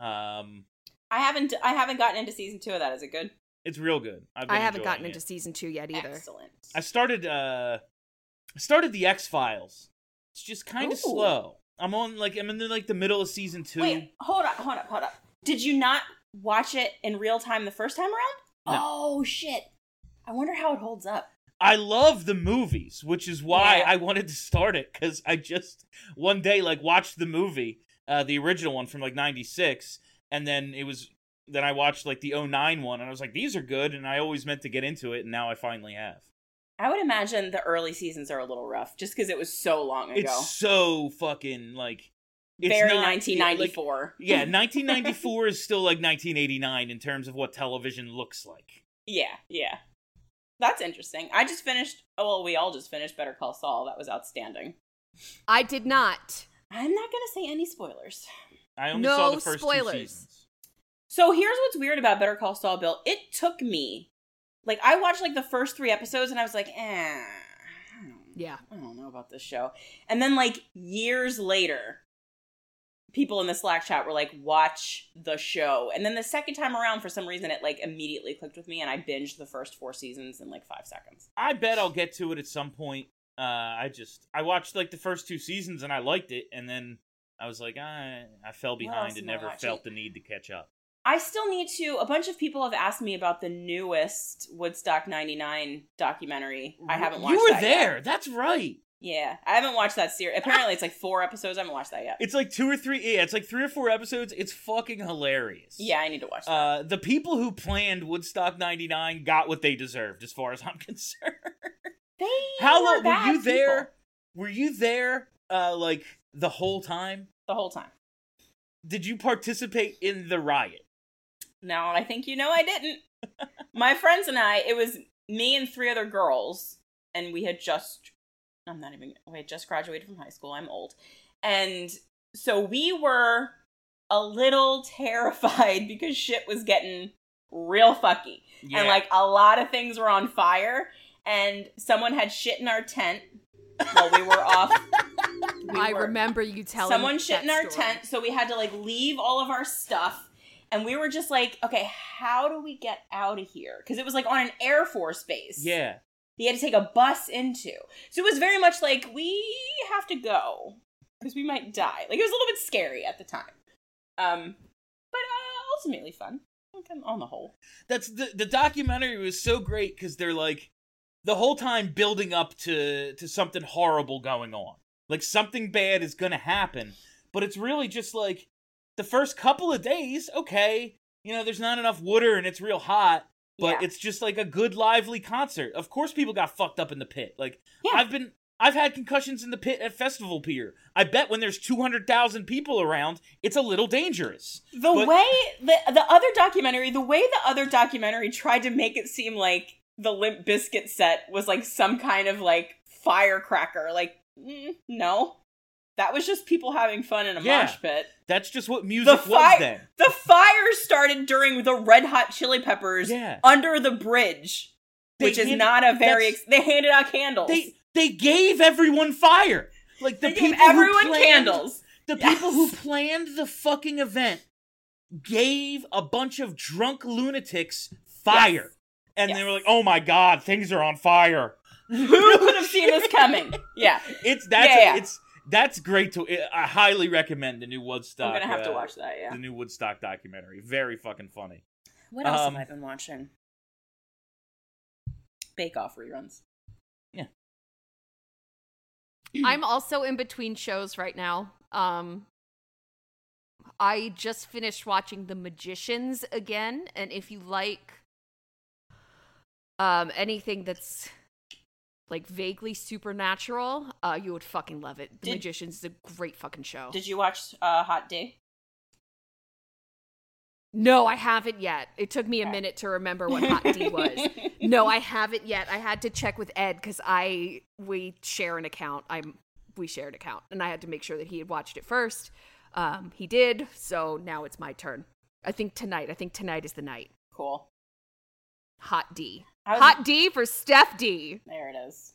Um, I haven't I haven't gotten into season two of that. Is it good? it's real good. I've been I haven't enjoying gotten it. into season two yet either. Excellent. I started, uh, I started the X-Files. It's just kind of Ooh. slow. I'm on, like, I'm in the, like, the middle of season two. Wait, hold up, hold up, hold up. Did you not watch it in real time the first time around? No. Oh, shit. I wonder how it holds up. I love the movies, which is why Yeah. I wanted to start it, because I just, one day, like, watched the movie, uh, the original one from, like, ninety-six, and then it was, then I watched, like, the oh nine one, and I was like, these are good, and I always meant to get into it, and now I finally have. I would imagine the early seasons are a little rough, just because it was so long ago. It's so fucking, like... It's Very not- nineteen ninety-four. Like, yeah, nineteen ninety-four is still, like, nineteen eighty-nine in terms of what television looks like. Yeah, yeah. That's interesting. I just finished, oh, well, we all just finished Better Call Saul. That was outstanding. I did not. I'm not going to say any spoilers. I only No saw the first spoilers. two seasons. So here's what's weird about Better Call Saul, Bill. It took me, like, I watched, like, the first three episodes, and I was like, eh, I don't, Yeah. I don't know about this show. And then, like, years later, people in the Slack chat were like, watch the show. And then the second time around, for some reason, it, like, immediately clicked with me, and I binged the first four seasons in, like, five seconds. I bet I'll get to it at some point. Uh, I just, I watched, like, the first two seasons, and I liked it, and then I was like, I, I fell else behind am and I never watching? felt the need to catch up. I still need to. A bunch of people have asked me about the newest Woodstock ninety-nine documentary. I haven't watched You were that there. yet. That's right. Yeah, I haven't watched that series. Apparently, it's like four episodes. I haven't watched that yet. It's like two or three, yeah, it's like three or four episodes. It's fucking hilarious. Yeah, I need to watch that. Uh, the people who planned Woodstock ninety-nine got what they deserved, as far as I'm concerned. They How were long were bad you there? people Were you there, uh, like, the whole time? the whole time? Did you participate in the riot? No, I think you know I didn't. My friends and I, it was me and three other girls, and we had just, I'm not even, we had just graduated from high school. I'm old. And so we were a little terrified because shit was getting real fucky. Yeah. And like a lot of things were on fire, and someone had shit in our tent while we were off. We I were- remember you telling Someone shit that in our story. tent, so we had to like leave all of our stuff. And we were just like, okay, how do we get out of here? Because it was like on an Air Force base. Yeah. You had to take a bus into. So it was very much like, we have to go. Because we might die. Like, it was a little bit scary at the time. Um, But uh, ultimately fun. Like, on the whole. That's the the documentary was so great because they're like the whole time building up to to something horrible going on. Like something bad is gonna happen, but it's really just like the first couple of days, okay, you know, there's not enough water and it's real hot, but Yeah. it's just like a good lively concert. Of course people got fucked up in the pit. Like Yeah. I've been I've had concussions in the pit at Festival Pier. I bet when there's two hundred thousand people around, it's a little dangerous. The But- way, the, the other documentary, the way the other documentary tried to make it seem like the Limp Bizkit set was like some kind of like firecracker. Like, mm, no. That was just people having fun in a Yeah. mosh pit. That's just what The music was fire, then. the fire started during the Red Hot Chili Peppers Yeah. under the bridge, They which is hand- not a very. that's- Ex- they handed out candles. They they gave everyone fire. Like the They people gave everyone who planned, candles. The Yes. people who planned the fucking event gave a bunch of drunk lunatics fire. Yes. And Yes. they were like, oh my god, things are on fire. Who could have seen this coming? Yeah. It's that's Yeah, yeah. it's that's great to I highly recommend the new Woodstock. I'm gonna have to uh, watch that, yeah. The new Woodstock documentary. Very fucking funny. What else Um, have I been watching? Bake Off reruns. Yeah. I'm also in between shows right now. Um, I just finished watching The Magicians again, and if you like um, anything that's like vaguely supernatural, uh, you would fucking love it. The Did- Magicians is a great fucking show. Did you watch uh, Hot D? No, I haven't yet. It took me a Okay. minute to remember what Hot D was. No, I haven't yet. I had to check with Ed because I we share an account. I'm we share an account, and I had to make sure that he had watched it first. Um, he did, so now it's my turn. I think tonight. I think tonight is the night. Cool. Hot D. How's- Hot D for Steph D. There it is.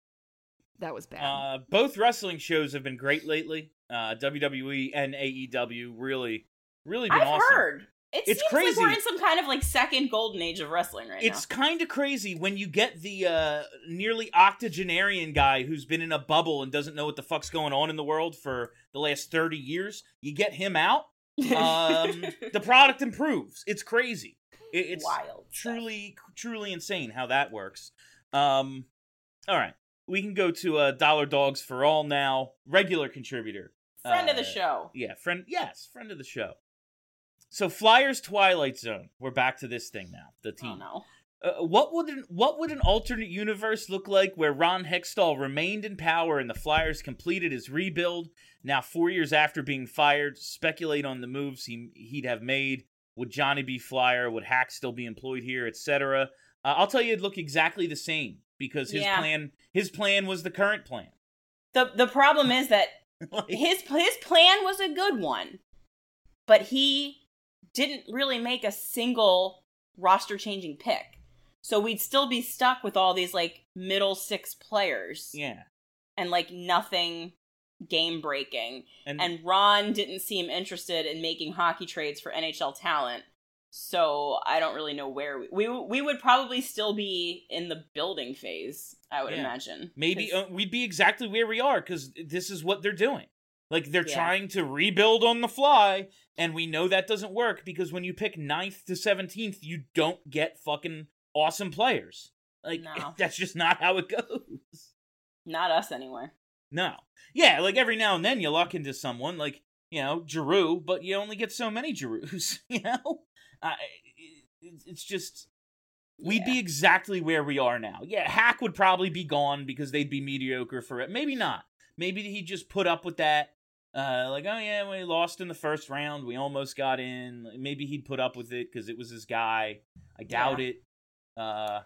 That was bad. Uh, both wrestling shows have been great lately. Uh, W W E and A E W really, really been I've awesome. heard. It It's seems crazy. like we're in some kind of like second golden age of wrestling right It's kind of crazy when you get the uh, nearly octogenarian guy who's been in a bubble and doesn't know what the fuck's going on in the world for the last thirty years. You get him out, now. um, the product improves. It's crazy. It, it's Wild. stuff. truly, truly insane how that works. Um, all right, we can go to uh, Dollar Dogs for All now. Regular contributor, Friend of the Uh, show. Yeah, friend. Yes, friend of the show. So Flyers Twilight Zone. We're back to this thing now. The Oh team. no. Uh, what would an, what would an alternate universe look like where Ron Hextall remained in power and the Flyers completed his rebuild? Now, four years after being fired, speculate on the moves he he'd have made. Would Johnny be Flyer? Would Hack still be employed here, et cetera? Uh, I'll tell you, it'd look exactly the same because his Yeah. plan his plan was the current plan. The the problem is that Like, his his plan was a good one, but he didn't really make a single roster changing pick. So we'd still be stuck with all these like middle six players yeah, and like nothing game breaking. and, And Ron didn't seem interested in making hockey trades for N H L talent. So I don't really know where we we, we would probably still be in the building phase, I would Yeah. imagine. maybe 'Cause- uh, we'd be exactly where we are because this is what they're doing. Like, they're Yeah. trying to rebuild on the fly, and we know that doesn't work because when you pick ninth to seventeenth, you don't get fucking awesome players. Like, No. that's just not how it goes. not us anyway. No. Yeah, like, every now and then you luck into someone, like, you know, Giroux, but you only get so many Giroux, you know? Uh, it, it's just... We'd be Yeah. exactly where we are now. Yeah, Hack would probably be gone because they'd be mediocre for it. Maybe not. Maybe he'd just put up with that. Uh, like, oh yeah, we lost in the first round. We almost got in. Maybe he'd put up with it because it was his guy. I doubt it. Uh,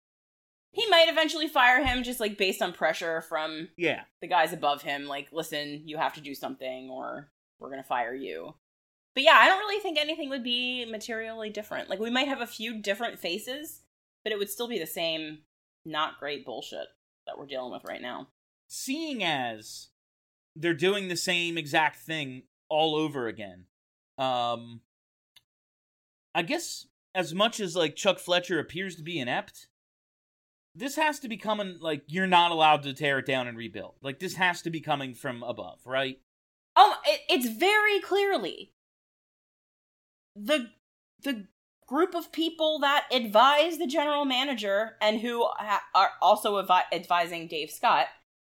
He might eventually fire him just like based on pressure from yeah. the guys above him, like, listen, you have to do something or we're gonna fire you. But yeah, I don't really think anything would be materially different. Like, we might have a few different faces, but it would still be the same not great bullshit that we're dealing with right now. Seeing as they're doing the same exact thing all over again, um, I guess as much as like Chuck Fletcher appears to be inept, this has to be coming, like, you're not allowed to tear it down and rebuild. Like, this has to be coming from above, right? Oh, it, it's very clearly the the group of people that advise the general manager and who ha- are also avi- advising Dave Scott.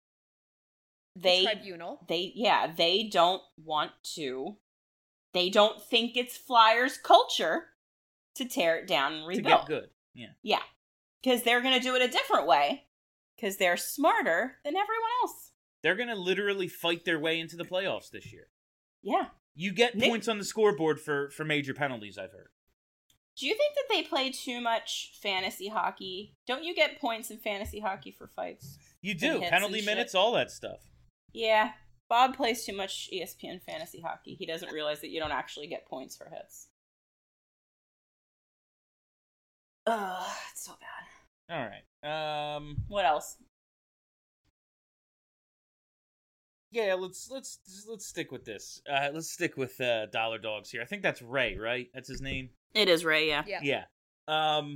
They Tribunal. they yeah, they don't want to. They don't think it's Flyers culture to tear it down and To rebuild. get good. Yeah. Yeah. Because they're going to do it a different way. Because they're smarter than everyone else. They're going to literally fight their way into the playoffs this year. Yeah. You get Nick- points on the scoreboard for, for major penalties, I've heard. Do you think that they play too much fantasy hockey? Don't you get points in fantasy hockey for fights? You And do. hits Penalty and minutes, shit. all that stuff. Yeah. Bob plays too much E S P N fantasy hockey. He doesn't realize that you don't actually get points for hits. Ugh, it's so bad. All right. Um, What else? Yeah, let's let's let's stick with this. Uh, let's stick with uh, Dollar Dogs here. I think that's Ray, right? That's his name. It is Ray, yeah. Yeah. Yeah. Um,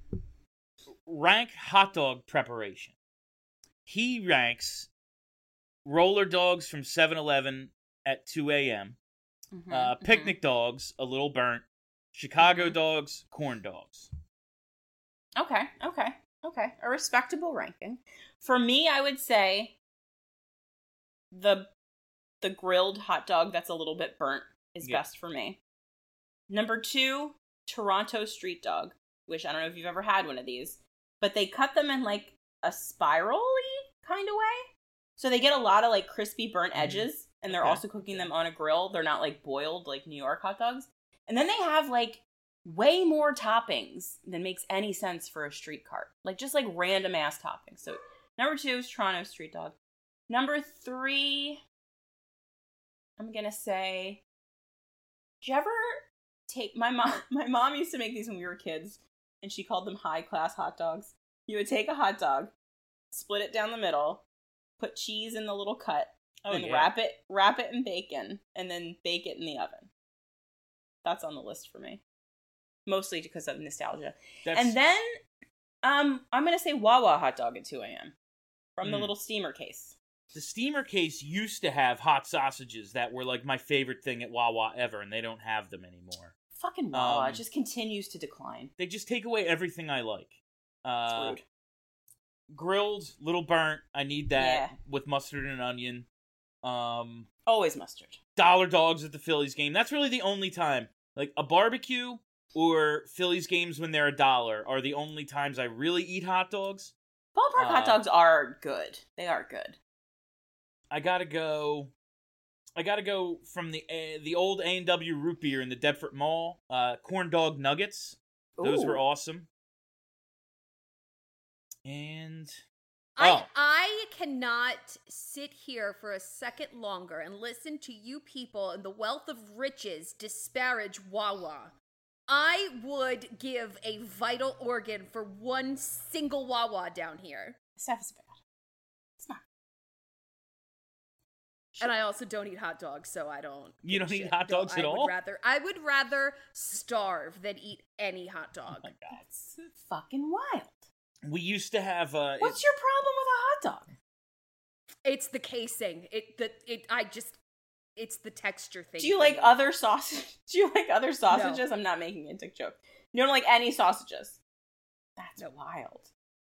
rank hot dog preparation. He ranks roller dogs from seven eleven at two a.m., Mm-hmm, uh, picnic mm-hmm. dogs, a little burnt, Chicago Mhm. dogs, corn dogs. Okay, okay, okay. A respectable ranking. For me, I would say the the grilled hot dog that's a little bit burnt is Yeah. best for me. Number two, Toronto street dog, which I don't know if you've ever had one of these, but they cut them in like a spiral-y kind of way. So they get a lot of like crispy burnt edges, and they're Okay. also cooking them on a grill. They're not like boiled like New York hot dogs. And then they have like way more toppings than makes any sense for a street cart. Like just like random ass toppings. So number two is Toronto street dog. Number three, I'm gonna say, did you ever take my mom? My mom used to make these when we were kids, and she called them high class hot dogs. You would take a hot dog, split it down the middle, put cheese in the little cut, Oh, then yeah. wrap it, wrap it in bacon, and then bake it in the oven. That's on the list for me, mostly because of nostalgia. That's, And then, um, I'm gonna say Wawa hot dog at two a.m. from the Mm. little steamer case. the steamer case used to have hot sausages that were like my favorite thing at Wawa ever, and they don't have them anymore. Fucking Wawa Um, just continues to decline. They just take away everything I like. It's Uh, rude. grilled, little burnt. I need that Yeah. with mustard and onion. Um, Always mustard. Dollar Dogs at the Phillies game. That's really the only time. Like a barbecue or Phillies games when they're a dollar are the only times I really eat hot dogs. Ballpark Uh, hot dogs are good. They are good. I gotta go. I gotta go from the uh, the old A and W root beer in the Deptford Mall. Uh, corn dog nuggets. Those Ooh. were awesome. And I Oh. I cannot sit here for a second longer and listen to you people and the wealth of riches disparage Wawa. I would give a vital organ for one single Wawa down here. Stuff is bad. It's not. And I also don't eat hot dogs, so I don't. You give don't a eat shit. hot No, dogs at I all? Would rather, I would rather starve than eat any hot dog. oh my god, That's fucking wild. we used to have. Uh, What's your problem with a hot dog? It's the casing. It the it. I just. It's the texture thing. Do you for like me. other sausage? Do you like other sausages? I'm not making a dick joke. You don't like any sausages? That's No. wild.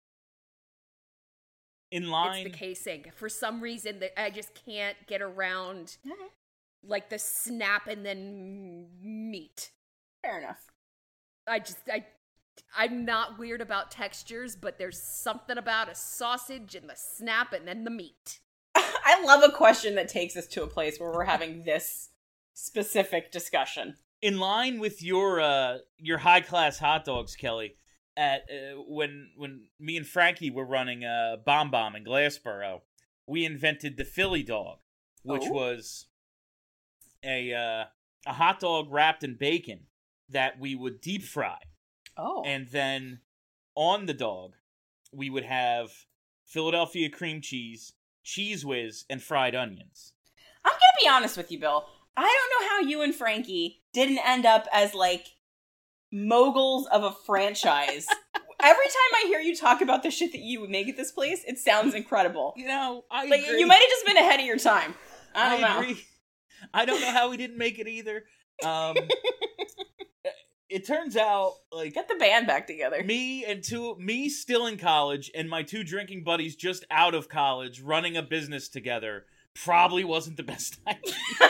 in line. It's the casing. For some reason, that I just can't get around Okay. like the snap and then meat. Fair enough. I just I I'm not weird about textures, but there's something about a sausage and the snap and then the meat. I love a question that takes us to a place where we're having this specific discussion. in line with your uh your high class hot dogs, Kelly. At uh, when when me and Frankie were running uh Bomb Bomb in Glassboro, we invented the Philly dog, which Oh. was a uh, a hot dog wrapped in bacon that we would deep fry, Oh. and then on the dog we would have Philadelphia cream cheese, Cheese Whiz, and fried onions. I'm gonna be honest with you, Bill. I don't know how you and Frankie didn't end up as, like, moguls of a franchise. Every time I hear you talk about the shit that you would make at this place, it sounds incredible. You know, I Like, agree. you might have just been ahead of your time. I don't know. agree. I don't know how we didn't make it either. Um, it turns out, like, Get the band back together. me and two, me still in college, and my two drinking buddies just out of college, running a business together, probably wasn't the best idea.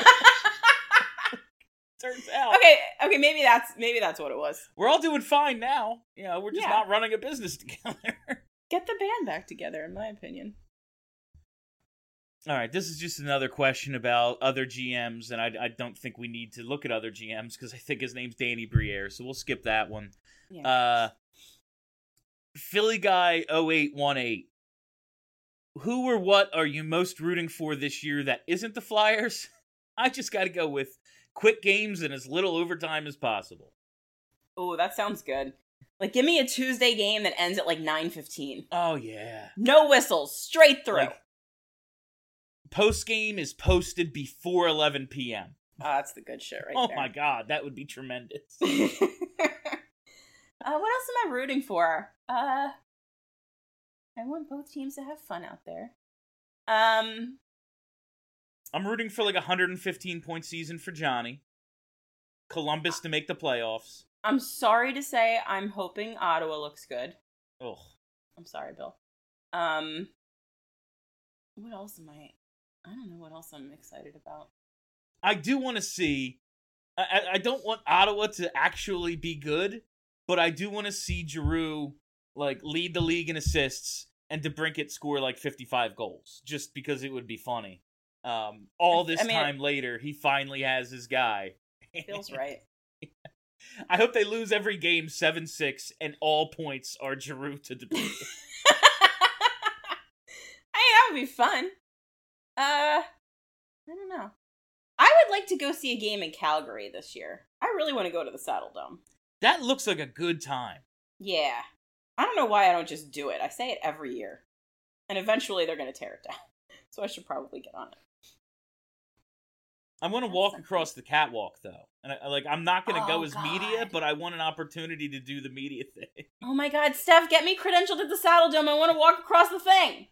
Turns out, Okay, okay, maybe that's maybe that's what it was. we're all doing fine now. You know, we're just Yeah. not running a business together. Get the band back together, in my opinion. All right, this is just another question about other G Ms, and I, I don't think we need to look at other G Ms because I think his name's Danny Briere, so we'll skip that one. Yeah. Uh, Philly Guy oh eight one eight. Who or what are you most rooting for this year that isn't the Flyers? I just got to go with quick games and as little overtime as possible. Oh, that sounds good. Like, give me a Tuesday game that ends at like nine fifteen. Oh, yeah. No whistles, straight through. Like, post game is posted before eleven p.m. Oh, that's the good shit right oh there. my god, that would be tremendous. uh, what else am I rooting for? Uh, I want both teams to have fun out there. Um, I'm rooting for like a one hundred fifteen point season for Johnny. Columbus to make the playoffs. I'm sorry to say I'm hoping Ottawa looks good. Ugh. I'm sorry, Bill. Um, what else am I... I don't know what else I'm excited about. I do want to see... I, I don't want Ottawa to actually be good, but I do want to see Giroux like lead the league in assists and DeBrincat score like fifty-five goals, just because it would be funny. Um, all this I mean, time later, he finally has his guy. Feels right. I hope they lose every game seven six and all points are Giroux to DeBrincat. I mean, that would be fun. Uh, I don't know. I would like to go see a game in Calgary this year. I really want to go to the Saddle Dome. That looks like a good time. Yeah. I don't know why I don't just do it. I say it every year. And eventually they're going to tear it down. So I should probably get on it. I want to walk across the catwalk, though. And I, like, I'm not going to Oh, go as God. media, but I want an opportunity to do the media thing. Oh my god, Steph, get me credentialed at the Saddle Dome. I want to walk across the thing.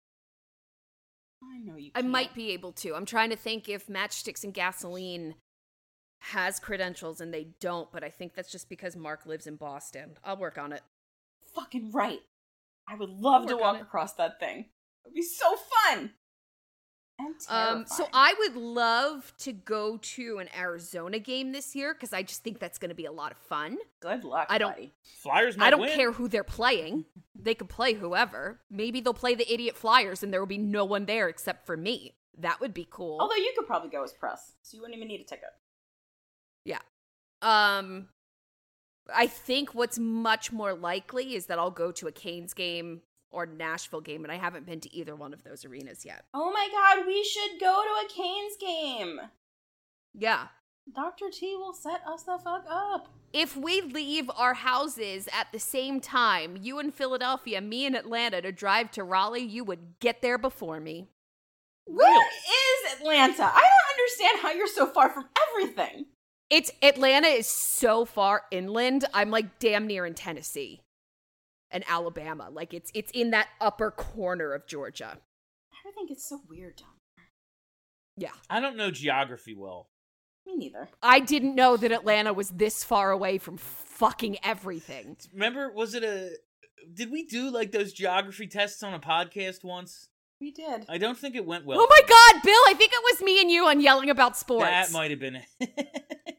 I know you I can't. might be able to. I'm trying to think if Matchsticks and Gasoline has credentials and they don't, but I think that's just because Mark lives in Boston. I'll work on it. Fucking right. I would love to Work on walk it. across that thing. It would be so fun. And terrifying. Um, so I would love to go to an Arizona game this year because I just think that's going to be a lot of fun. Good luck, I don't- buddy. Flyers might I don't win. care who they're playing. They could play whoever. Maybe they'll play the idiot Flyers and there will be no one there except for me. That would be cool. Although you could probably go as press, so you wouldn't even need a ticket. Yeah. Um, I think what's much more likely is that I'll go to a Canes game or Nashville game, and I haven't been to either one of those arenas yet. Oh my god, we should go to a Canes game. Yeah. Doctor T will set us the fuck up. If we leave our houses at the same time, you in Philadelphia, me in Atlanta, to drive to Raleigh, you would get there before me. Where is Atlanta? I don't understand how you're so far from everything. It's Atlanta is so far inland. I'm like damn near in Tennessee and Alabama. Like it's it's in that upper corner of Georgia. Everything gets so weird down there. Yeah. I don't know geography well. Me neither. I didn't know that Atlanta was this far away from fucking everything. Remember, was it a... Did we do, like, those geography tests on a podcast once? We did. I don't think it went well. Oh my god, Bill, I think it was me and you on Yelling About Sports. That might have been it.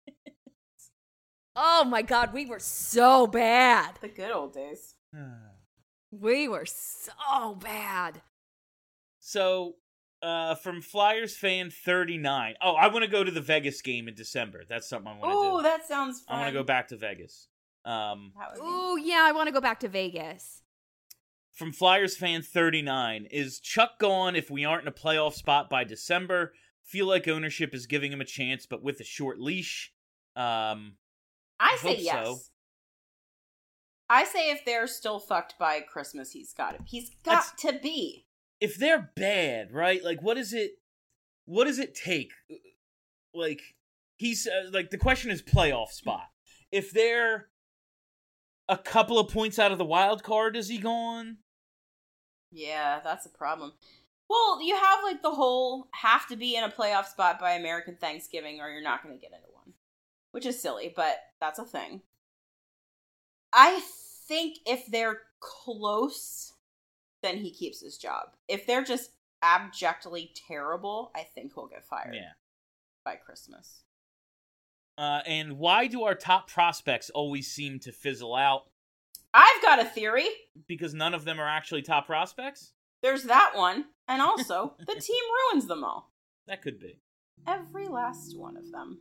Oh my god, we were so bad. The good old days. We were so bad. So, uh, from Flyers fan thirty-nine. Oh, I want to go to the Vegas game in December. That's something I want to Oh, do. that sounds fun. I want to go back to Vegas. Um, That would be- Ooh, yeah, I want to go back to Vegas. from Flyers fan thirty-nine. Is Chuck gone if we aren't in a playoff spot by December? Feel like ownership is giving him a chance, but with a short leash. Um, I I say hope yes. so. I say if they're still fucked by Christmas, he's got it. He's got to be. if they're bad, right? Like, what is it? What does it take? Like, he's uh, like the question is playoff spot. If they're a couple of points out of the wild card, is he gone? Yeah, that's a problem. Well, you have like the whole have to be in a playoff spot by American Thanksgiving or you're not going to get into one, which is silly, but that's a thing. I think if they're close, then he keeps his job. If they're just abjectly terrible, I think he'll get fired Yeah. by Christmas. Uh, and why do our top prospects always seem to fizzle out? I've got a theory. Because none of them are actually top prospects? There's that one. And also, the team ruins them all. That could be. Every last one of them.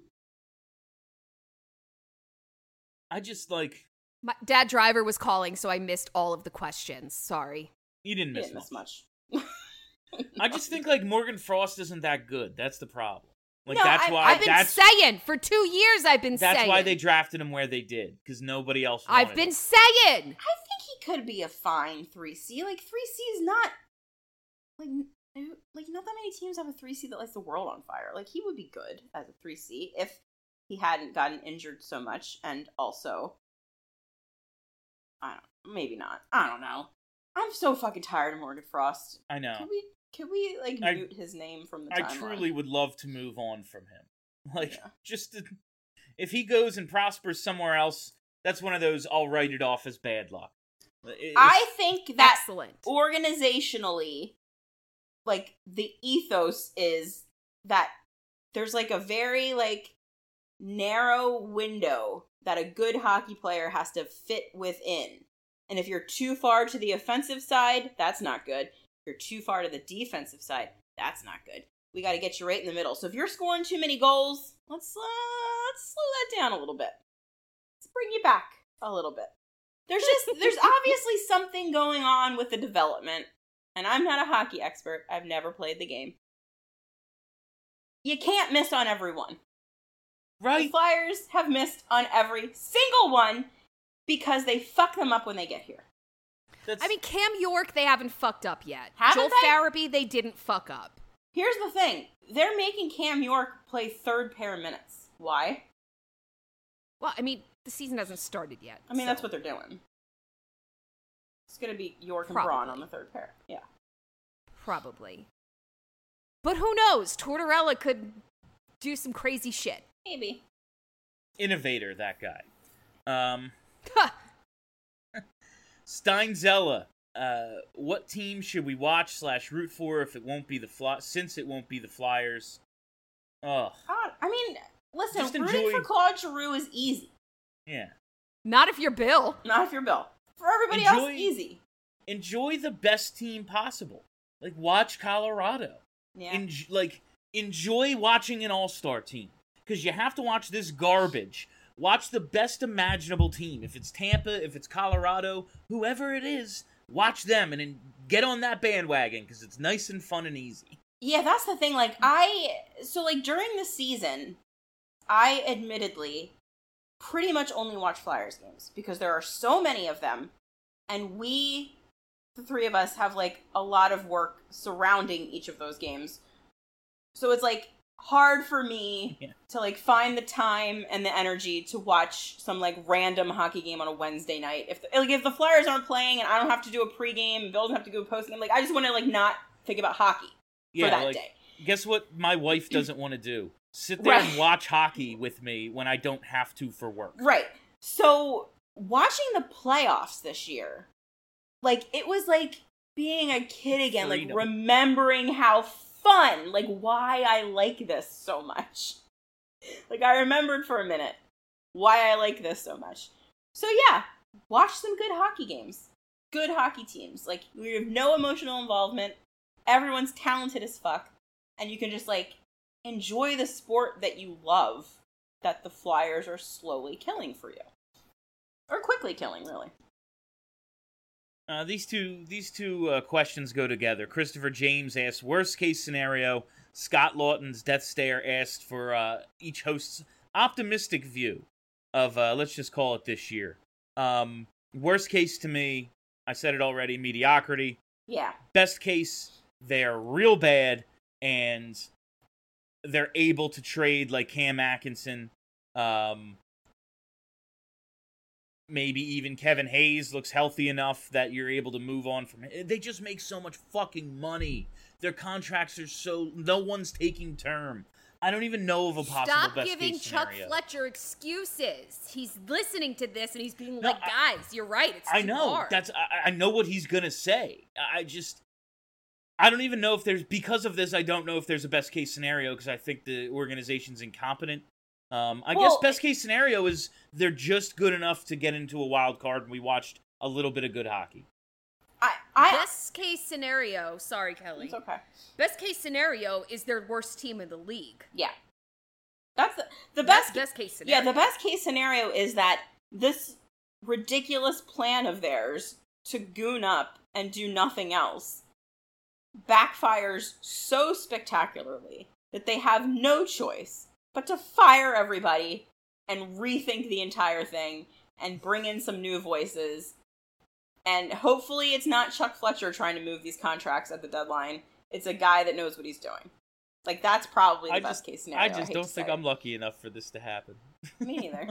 I just, like, My dad driver was calling, so I missed all of the questions. Sorry. you didn't He miss didn't miss much. much. I just think, like, Morgan Frost isn't that good. That's the problem. Like, No, that's I- why... I've been that's, saying for two years. I've been that's saying. why they drafted him where they did. Because nobody else wanted I've been him. saying. I think he could be a fine three C. Like, three C is not... Like, like, not that many teams have a three seed that lights the world on fire. Like, he would be good as a three seed if he hadn't gotten injured so much, and also, I don't, maybe not. I don't know. I'm so fucking tired of Morgan Frost. I know. Can we, can we like, I, mute his name from the I timeline? truly would love to move on from him. Like, Yeah. just to, if he goes and prospers somewhere else, that's one of those, I'll write it off as bad luck. It's, I think that Excellent. organizationally, like, the ethos is that there's, like, a very, like, narrow window that a good hockey player has to fit within. And if you're too far to the offensive side, that's not good. If you're too far to the defensive side, that's not good. We got to get you right in the middle. So if you're scoring too many goals, let's, uh, let's slow that down a little bit. Let's bring you back a little bit. There's just, there's obviously something going on with the development. And I'm not a hockey expert. I've never played the game. You can't miss on everyone. right? The Flyers have missed on every single one because they fuck them up when they get here. That's, I mean, Cam York, they haven't fucked up yet. Haven't Joel they? Farabee, they didn't fuck up. Here's the thing. They're making Cam York play third pair minutes. Why? Well, I mean, the season hasn't started yet. I mean, so- that's what they're doing. It's going to be York and Braun Probably. on the third pair. Yeah. Probably. But who knows? Tortorella could do some crazy shit. Maybe. innovator, that guy. Um, Ha! Steinzella. Uh, what team should we watch slash root for if it won't be the Fly- since it won't be the Flyers? Ugh. Uh, I mean, listen, Just rooting enjoy- for Claude Giroux is easy. Yeah. Not if you're Bill. Not if you're Bill. For everybody Enjoy- else, easy. Enjoy the best team possible. Like, watch Colorado. Yeah. En- like, enjoy watching an all-star team. Because you have to watch this garbage. Watch the best imaginable team. If it's Tampa, if it's Colorado, whoever it is, watch them and then get on that bandwagon because it's nice and fun and easy. Yeah, that's the thing. Like, I... So, like, during the season, I admittedly pretty much only watch Flyers games because there are so many of them, and we, the three of us, have, like, a lot of work surrounding each of those games. So it's, like, hard for me Yeah. to, like, find the time and the energy to watch some, like, random hockey game on a Wednesday night. If the, like, if the Flyers aren't playing and I don't have to do a pregame and Bill doesn't have to do a postgame, like, I just want to, like, not think about hockey Yeah, for that like, day. guess what my wife doesn't want to do? Sit there and Right. watch hockey with me when I don't have to for work. Right. So, watching the playoffs this year, like, it was like being a kid again, Freedom. like, remembering how fun, like, why I like this so much. Like, I remembered for a minute why I like this so much. So, yeah, watch some good hockey games. Good hockey teams. Like, we have no emotional involvement. Everyone's talented as fuck. And you can just, like, enjoy the sport that you love that the Flyers are slowly killing for you. Or quickly killing, really. Uh, these two these two uh, questions go together. Christopher James asked, worst case scenario. Scott Lawton's Death Stare asked for uh, each host's optimistic view of, uh, let's just call it this year. Um, worst case to me, I said it already, mediocrity. Yeah. Best case, they're real bad, and they're able to trade like Cam Atkinson. Um, maybe even Kevin Hayes looks healthy enough that you're able to move on from it. They just make so much fucking money. Their contracts are so... No one's taking term. I don't even know of a possible Stop best giving case Chuck scenario. Fletcher excuses. He's listening to this and he's being No, like, I- guys, you're right. It's I too know. hard. That's I, I know what he's gonna say. I just I don't even know if there's because of this. I don't know if there's a best case scenario because I think the organization's incompetent. Um, I Well, guess best case scenario is they're just good enough to get into a wild card, and we watched a little bit of good hockey. I... I Best case scenario, sorry, Kelly. it's okay. Best case scenario is their worst team in the league. Yeah. That's the, the That's best... best case scenario. Yeah, the best case scenario is that this ridiculous plan of theirs to goon up and do nothing else backfires so spectacularly that they have no choice but to fire everybody and rethink the entire thing and bring in some new voices. And hopefully it's not Chuck Fletcher trying to move these contracts at the deadline. It's a guy that knows what he's doing. Like, that's probably the I best just, case scenario. I just hate don't to think say. I'm lucky enough for this to happen. Me neither.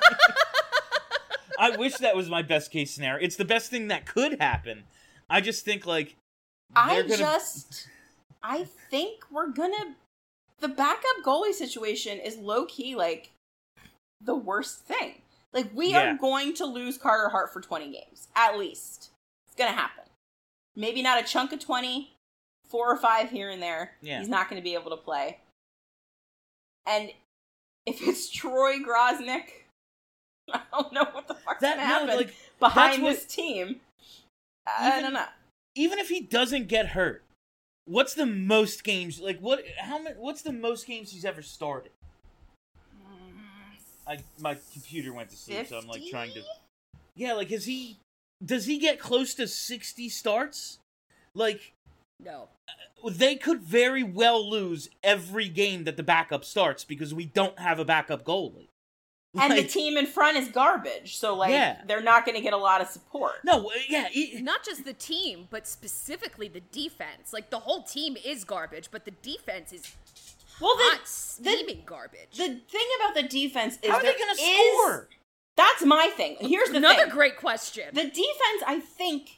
I wish that was my best case scenario. It's the best thing that could happen. I just think, like, I gonna... just... I think we're gonna... The backup goalie situation is low-key, like, the worst thing. Like, we Yeah. are going to lose Carter Hart for twenty games. At least. It's gonna happen. Maybe not a chunk of twenty, four or five here and there. Yeah. He's not gonna be able to play. And if it's Troy Grosnick, I don't know what the fuck's That- gonna no, happen like, behind that's this what- team. I Even- don't know. Even if he doesn't get hurt, what's the most games, like, what, how many, what's the most games he's ever started? I, my computer went to sleep, so I'm, like, trying to... Yeah, like, is he... Does he get close to sixty starts? Like, No. they could very well lose every game that the backup starts because we don't have a backup goalie. And the Like, team in front is garbage, so, like, Yeah. they're not going to get a lot of support. No, uh, yeah, he- Not just the team, but specifically the defense. Like, the whole team is garbage, but the defense is Well, hot, the, steaming garbage. the thing about the defense is how are they there going to is- score? That's my thing. Here's the Another thing. great question. The defense, I think,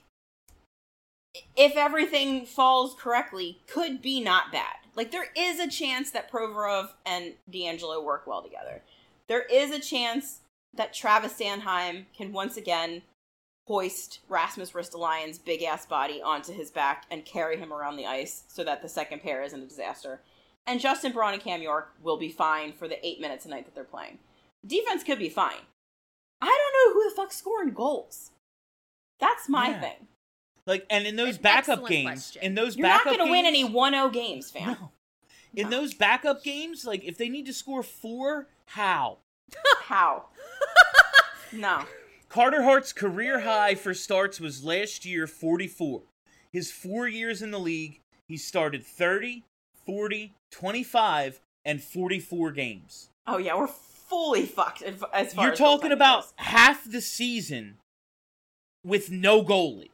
if everything falls correctly, could be not bad. Like, there is a chance that Provorov and D'Angelo work well together. There is a chance that Travis Sanheim can once again hoist Rasmus Ristolainen's big-ass body onto his back and carry him around the ice so that the second pair isn't a disaster. And Justin Braun and Cam York will be fine for the eight minutes a night that they're playing. Defense could be fine. I don't know who the fuck's scoring goals. That's my Yeah. thing. Like, and in those An backup excellent games, question. in those You're not backup going to win games- any one oh games, fam. No. In No. those backup games, like, if they need to score four, how? How? No. Carter Hart's career high for starts was last year, forty-four. His four years in the league, he started thirty, forty, twenty-five, and forty-four games. Oh, yeah, we're fully fucked as far as You're goaltending talking about goes. half the season with no goalie.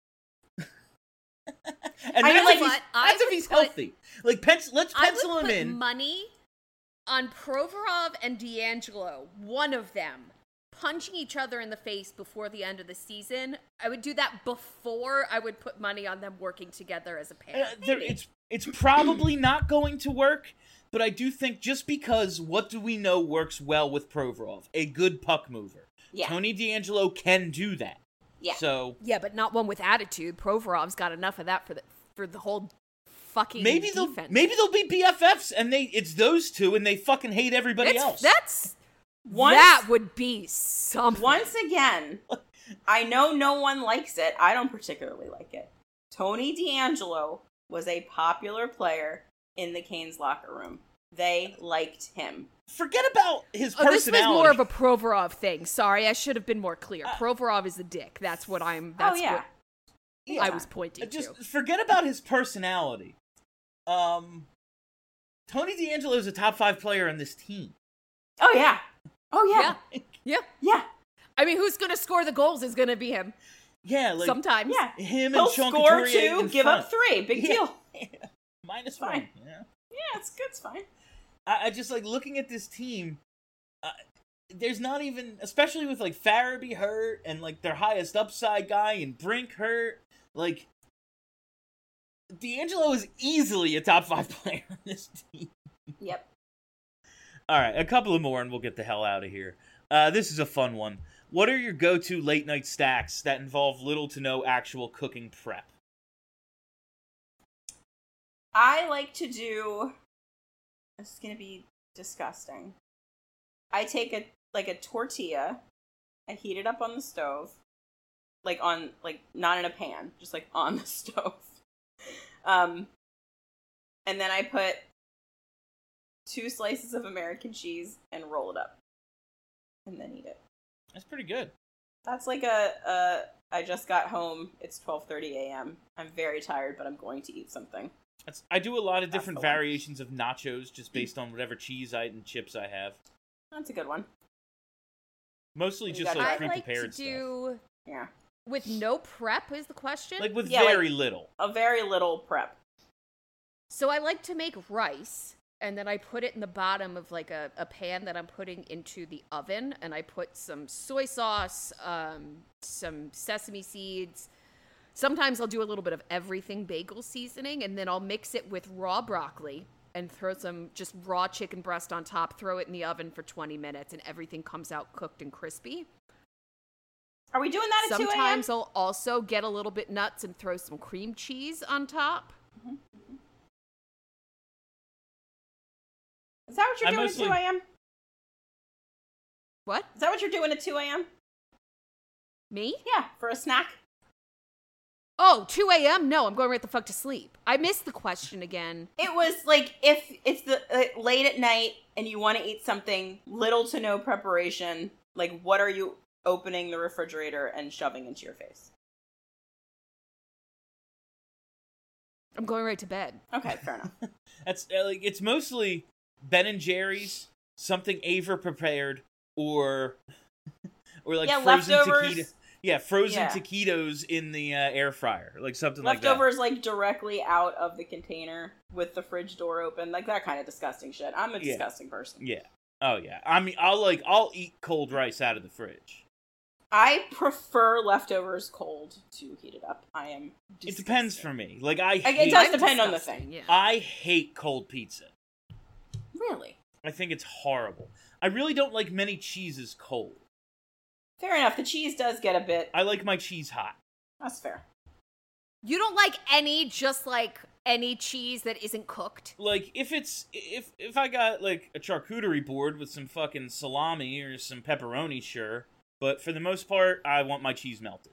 and I mean, that's, like, if, he's, what? I that's if would he's put- healthy. Like, pencil, let's I pencil would him put in. money on Provorov and D'Angelo, one of them, punching each other in the face before the end of the season. I would do that before I would put money on them working together as a pair. Uh, there, it's it's probably not going to work, but I do think just because what do we know works well with Provorov? A good puck mover. Yeah. Tony D'Angelo can do that. Yeah. So Yeah, but not one with attitude. Provorov's got enough of that for the for the whole fucking maybe they'll defense. maybe they'll be B F Fs and they it's those two and they fucking hate everybody That's- else. That's Once- that would be something. Once again, I know no one likes it. I don't particularly like it. Tony D'Angelo was a popular player in the Canes locker room. They liked him. Forget about his Oh, this personality. was more of a Provorov thing. Sorry, I should have been more clear. Provorov is a dick. That's what I'm. That's oh, yeah. what Yeah. I was pointing Just to. forget about his personality. Um, Tony D'Angelo is a top five player on this team. Oh, yeah. Oh, yeah. Yeah, yeah. Yeah. I mean, who's gonna score the goals is gonna be him. Yeah, like Sometimes. Yeah. him He'll and Sean score Couturier two, in give front. up three. Big Yeah. deal. Minus Fine. one. Yeah. Yeah, it's good. It's fine. I, I just like looking at this team. Uh, there's not even, especially with like Farabee hurt and like their highest upside guy and Brink hurt. Like D'Angelo is easily a top five player on this team. Yep. All right, a couple of more and we'll get the hell out of here. Uh, this is a fun one. What are your go-to late night stacks that involve little to no actual cooking prep? I like to do. This is gonna be disgusting. I take a like a tortilla, I heat it up on the stove, like on like not in a pan, just like on the stove. Um, and then I put two slices of American cheese and roll it up, and then eat it. That's pretty good. That's like a, a I just got home. It's twelve thirty a.m. I'm very tired, but I'm going to eat something. That's, I do a lot of That's different the one. variations of nachos just based on whatever cheese I and chips I have. That's a good one. Mostly You just got like it. I like to pre-prepared stuff. do Yeah. with no prep is the question. Like with Yeah, like- very little. A very little prep. So I like to make rice, and then I put it in the bottom of like a, a pan that I'm putting into the oven, and I put some soy sauce, um, some sesame seeds. Sometimes I'll do a little bit of everything bagel seasoning, and then I'll mix it with raw broccoli and throw some just raw chicken breast on top, throw it in the oven for twenty minutes, and everything comes out cooked and crispy. Are we doing that at two a.m.? Sometimes I'll also get a little bit nuts and throw some cream cheese on top. Mm-hmm. Is that what you're I doing mostly- at two a.m.? What? Is that what you're doing at two a.m.? Me? Yeah, for a snack? Oh, two a.m.? No, I'm going right the fuck to sleep. I missed the question again. It was like if it's the uh, late at night and you want to eat something, little to no preparation, like what are you opening the refrigerator and shoving into your face? I'm going right to bed. Okay, fair enough. That's uh, like it's mostly Ben and Jerry's, something Ava prepared, or or like Yeah, frozen leftovers. taquito. Yeah, frozen Yeah. taquitos in the uh, air fryer, like something like that. Leftovers like directly out of the container with the fridge door open, like that kind of disgusting shit. I'm a Yeah. disgusting person. Yeah. Oh yeah. I mean, I'll like I'll eat cold rice out of the fridge. I prefer leftovers cold to heat it up. I am. It depends for me. Like I. Like, hate, it does I'm depend on the disgusting, thing. Yeah. I hate cold pizza. Really? I think it's horrible. I really don't like many cheeses cold. Fair enough. The cheese does get a bit. I like my cheese hot. That's fair. You don't like any, just like any cheese that isn't cooked? Like if it's if if I got like a charcuterie board with some fucking salami or some pepperoni, sure. But for the most part, I want my cheese melted.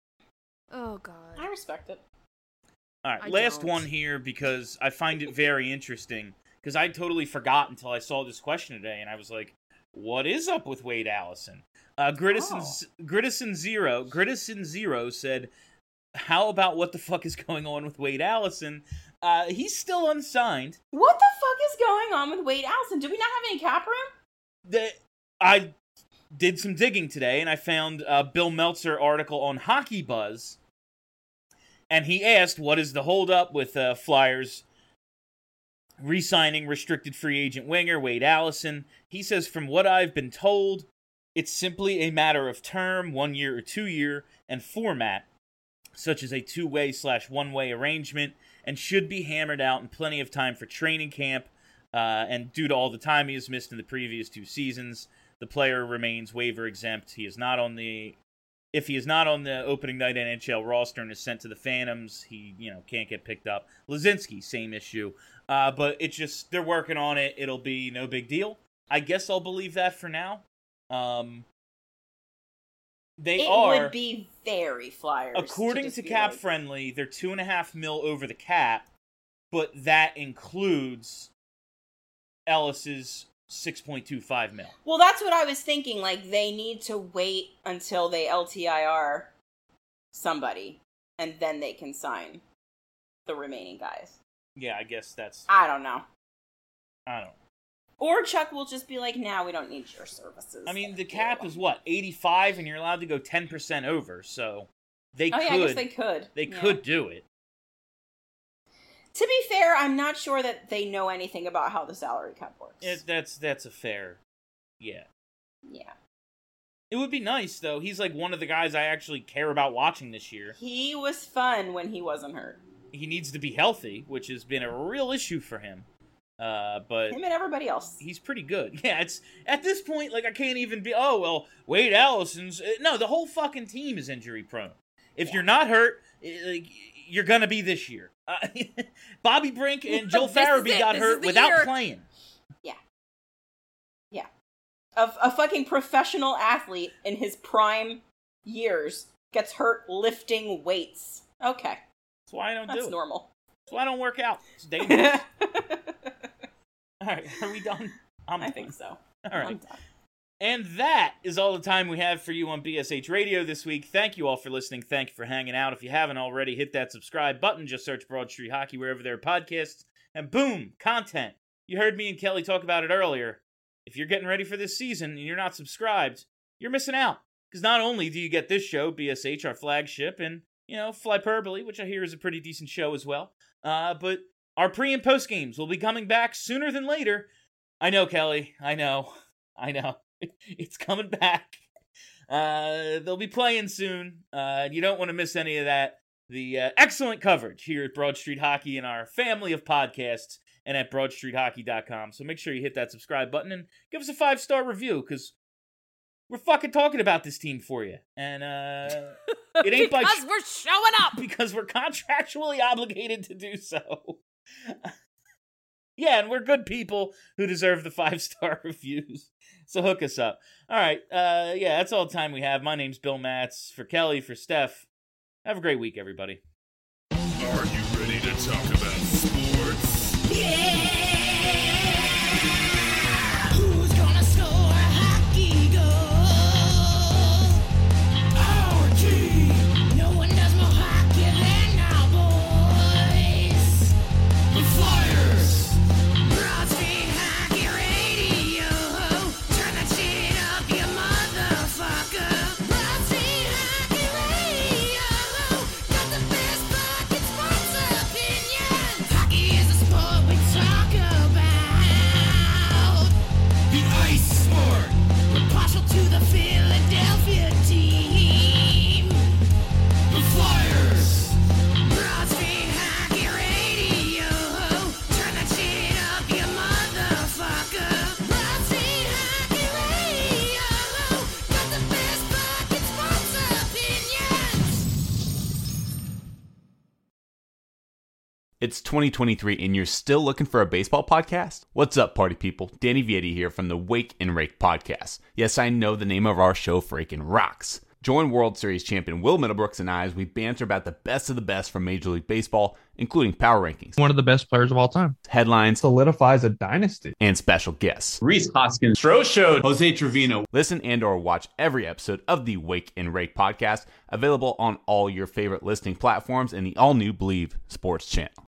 Oh, God. I respect it. All right, I last don't. one here because I find it very interesting. Because I totally forgot until I saw this question today, and I was like, "What is up with Wade Allison?" Uh, Gritison, Oh. Gritison Zero, Gritison Zero said, "How about what the fuck is going on with Wade Allison? Uh, he's still unsigned. What the fuck is going on with Wade Allison? Do we not have any cap room? The I did some digging today, and I found a Bill Meltzer article on Hockey Buzz, and he asked, "What is the holdup with uh, Flyers re-signing restricted free agent winger Wade Allison?" He says, "From what I've been told, it's simply a matter of term, one year or two year, and format, such as a two-way slash one-way arrangement, and should be hammered out in plenty of time for training camp. Uh, and due to all the time he has missed in the previous two seasons, the player remains waiver exempt. He is not on the if he is not on the opening night N H L roster and is sent to the Phantoms, he you know can't get picked up. Lazinski, same issue. Uh, but it's just they're working on it. It'll be no big deal. I guess I'll believe that for now. Um, they It are would be very Flyers. according just to be Cap like, Friendly, they're two and a half mil over the cap, but that includes Ellis's six point two five mil. Well, that's what I was thinking. Like, they need to wait until they L T I R somebody, and then they can sign the remaining guys. Yeah, I guess that's I don't know. I don't know. Or Chuck will just be like, "Now we don't need your services." I mean, the Thank cap you." is what, eighty-five, and you're allowed to go ten percent over, so they Oh could yeah, I guess they could. they Yeah. could do it. To be fair, I'm not sure that they know anything about how the salary cap works. it. That's that's a fair, yeah. Yeah. It would be nice though. He's like one of the guys I actually care about watching this year. He was fun when he wasn't hurt. He needs to be healthy, which has been a real issue for him. Uh, but Him and everybody else. he's pretty good. Yeah, it's at this point like I can't even be. Oh well, Wade Allison's uh, no. The whole fucking team is injury prone. If Yeah. you're not hurt, uh, like, you're gonna be this year. Uh, Bobby Brink and Joel This is Farabee it. got This hurt is the without year. playing. A, a fucking professional athlete in his prime years gets hurt lifting weights. Okay, That's why I don't that's do it. normal. That's why I don't work out. It's dangerous. All right, are we done? I'm I done. think so. All I'm right. done. And that is all the time we have for you on B S H Radio this week. Thank you all for listening. Thank you for hanging out. If you haven't already, hit that subscribe button. Just search Broad Street Hockey wherever there are podcasts. And boom, content. You heard me and Kelly talk about it earlier. If you're getting ready for this season and you're not subscribed, you're missing out. Because not only do you get this show, B S H, our flagship, and, you know, Flyperbole, which I hear is a pretty decent show as well, uh, but Our pre- and post games will be coming back sooner than later. I know, Kelly. I know. I know. It's coming back. Uh, they'll be playing soon. Uh, you don't want to miss any of that. The uh, excellent coverage here at Broad Street Hockey and our family of podcasts and at broad street hockey dot com. So make sure you hit that subscribe button and give us a five-star review, because we're fucking talking about this team for you. And uh, it ain't because by sh- we're showing up. Because we're contractually obligated to do so. Yeah, and we're good people who deserve the five-star reviews. So hook us up. All right, uh, yeah, that's all the time we have. My name's Bill Matz. For Kelly, for Steph, have a great week, everybody. Are you ready to talk about sports? Yeah! Who's gonna score hockey goals? Our team! No one does more hockey than our boys! The Flyers! Broad Street Hockey Radio! Turn that shit up, you motherfucker! Broad Street Hockey Radio! Got the best fucking sports opinions! Hockey is a sport we talk about! The ice sport! We're partial to the Philadelphia team! The Flyers! Broad Street Hockey Radio! Turn that shit up, you motherfucker! Broad Street Hockey Radio! Got the best fucking sports opinions! It's twenty twenty-three and you're still looking for a baseball podcast? What's up, party people? Danny Vietti here from the Wake and Rake podcast. Yes, I know the name of our show freaking rocks. Join World Series champion Will Middlebrooks and I as we banter about the best of the best from Major League Baseball, including power rankings, One of the best players of all time. headlines, Solidifies a dynasty. and special guests. Reese Hoskins, Stro Show, Jose Trevino. Listen and or watch every episode of the Wake and Rake podcast, available on all your favorite listening platforms and the all-new Believe Sports channel.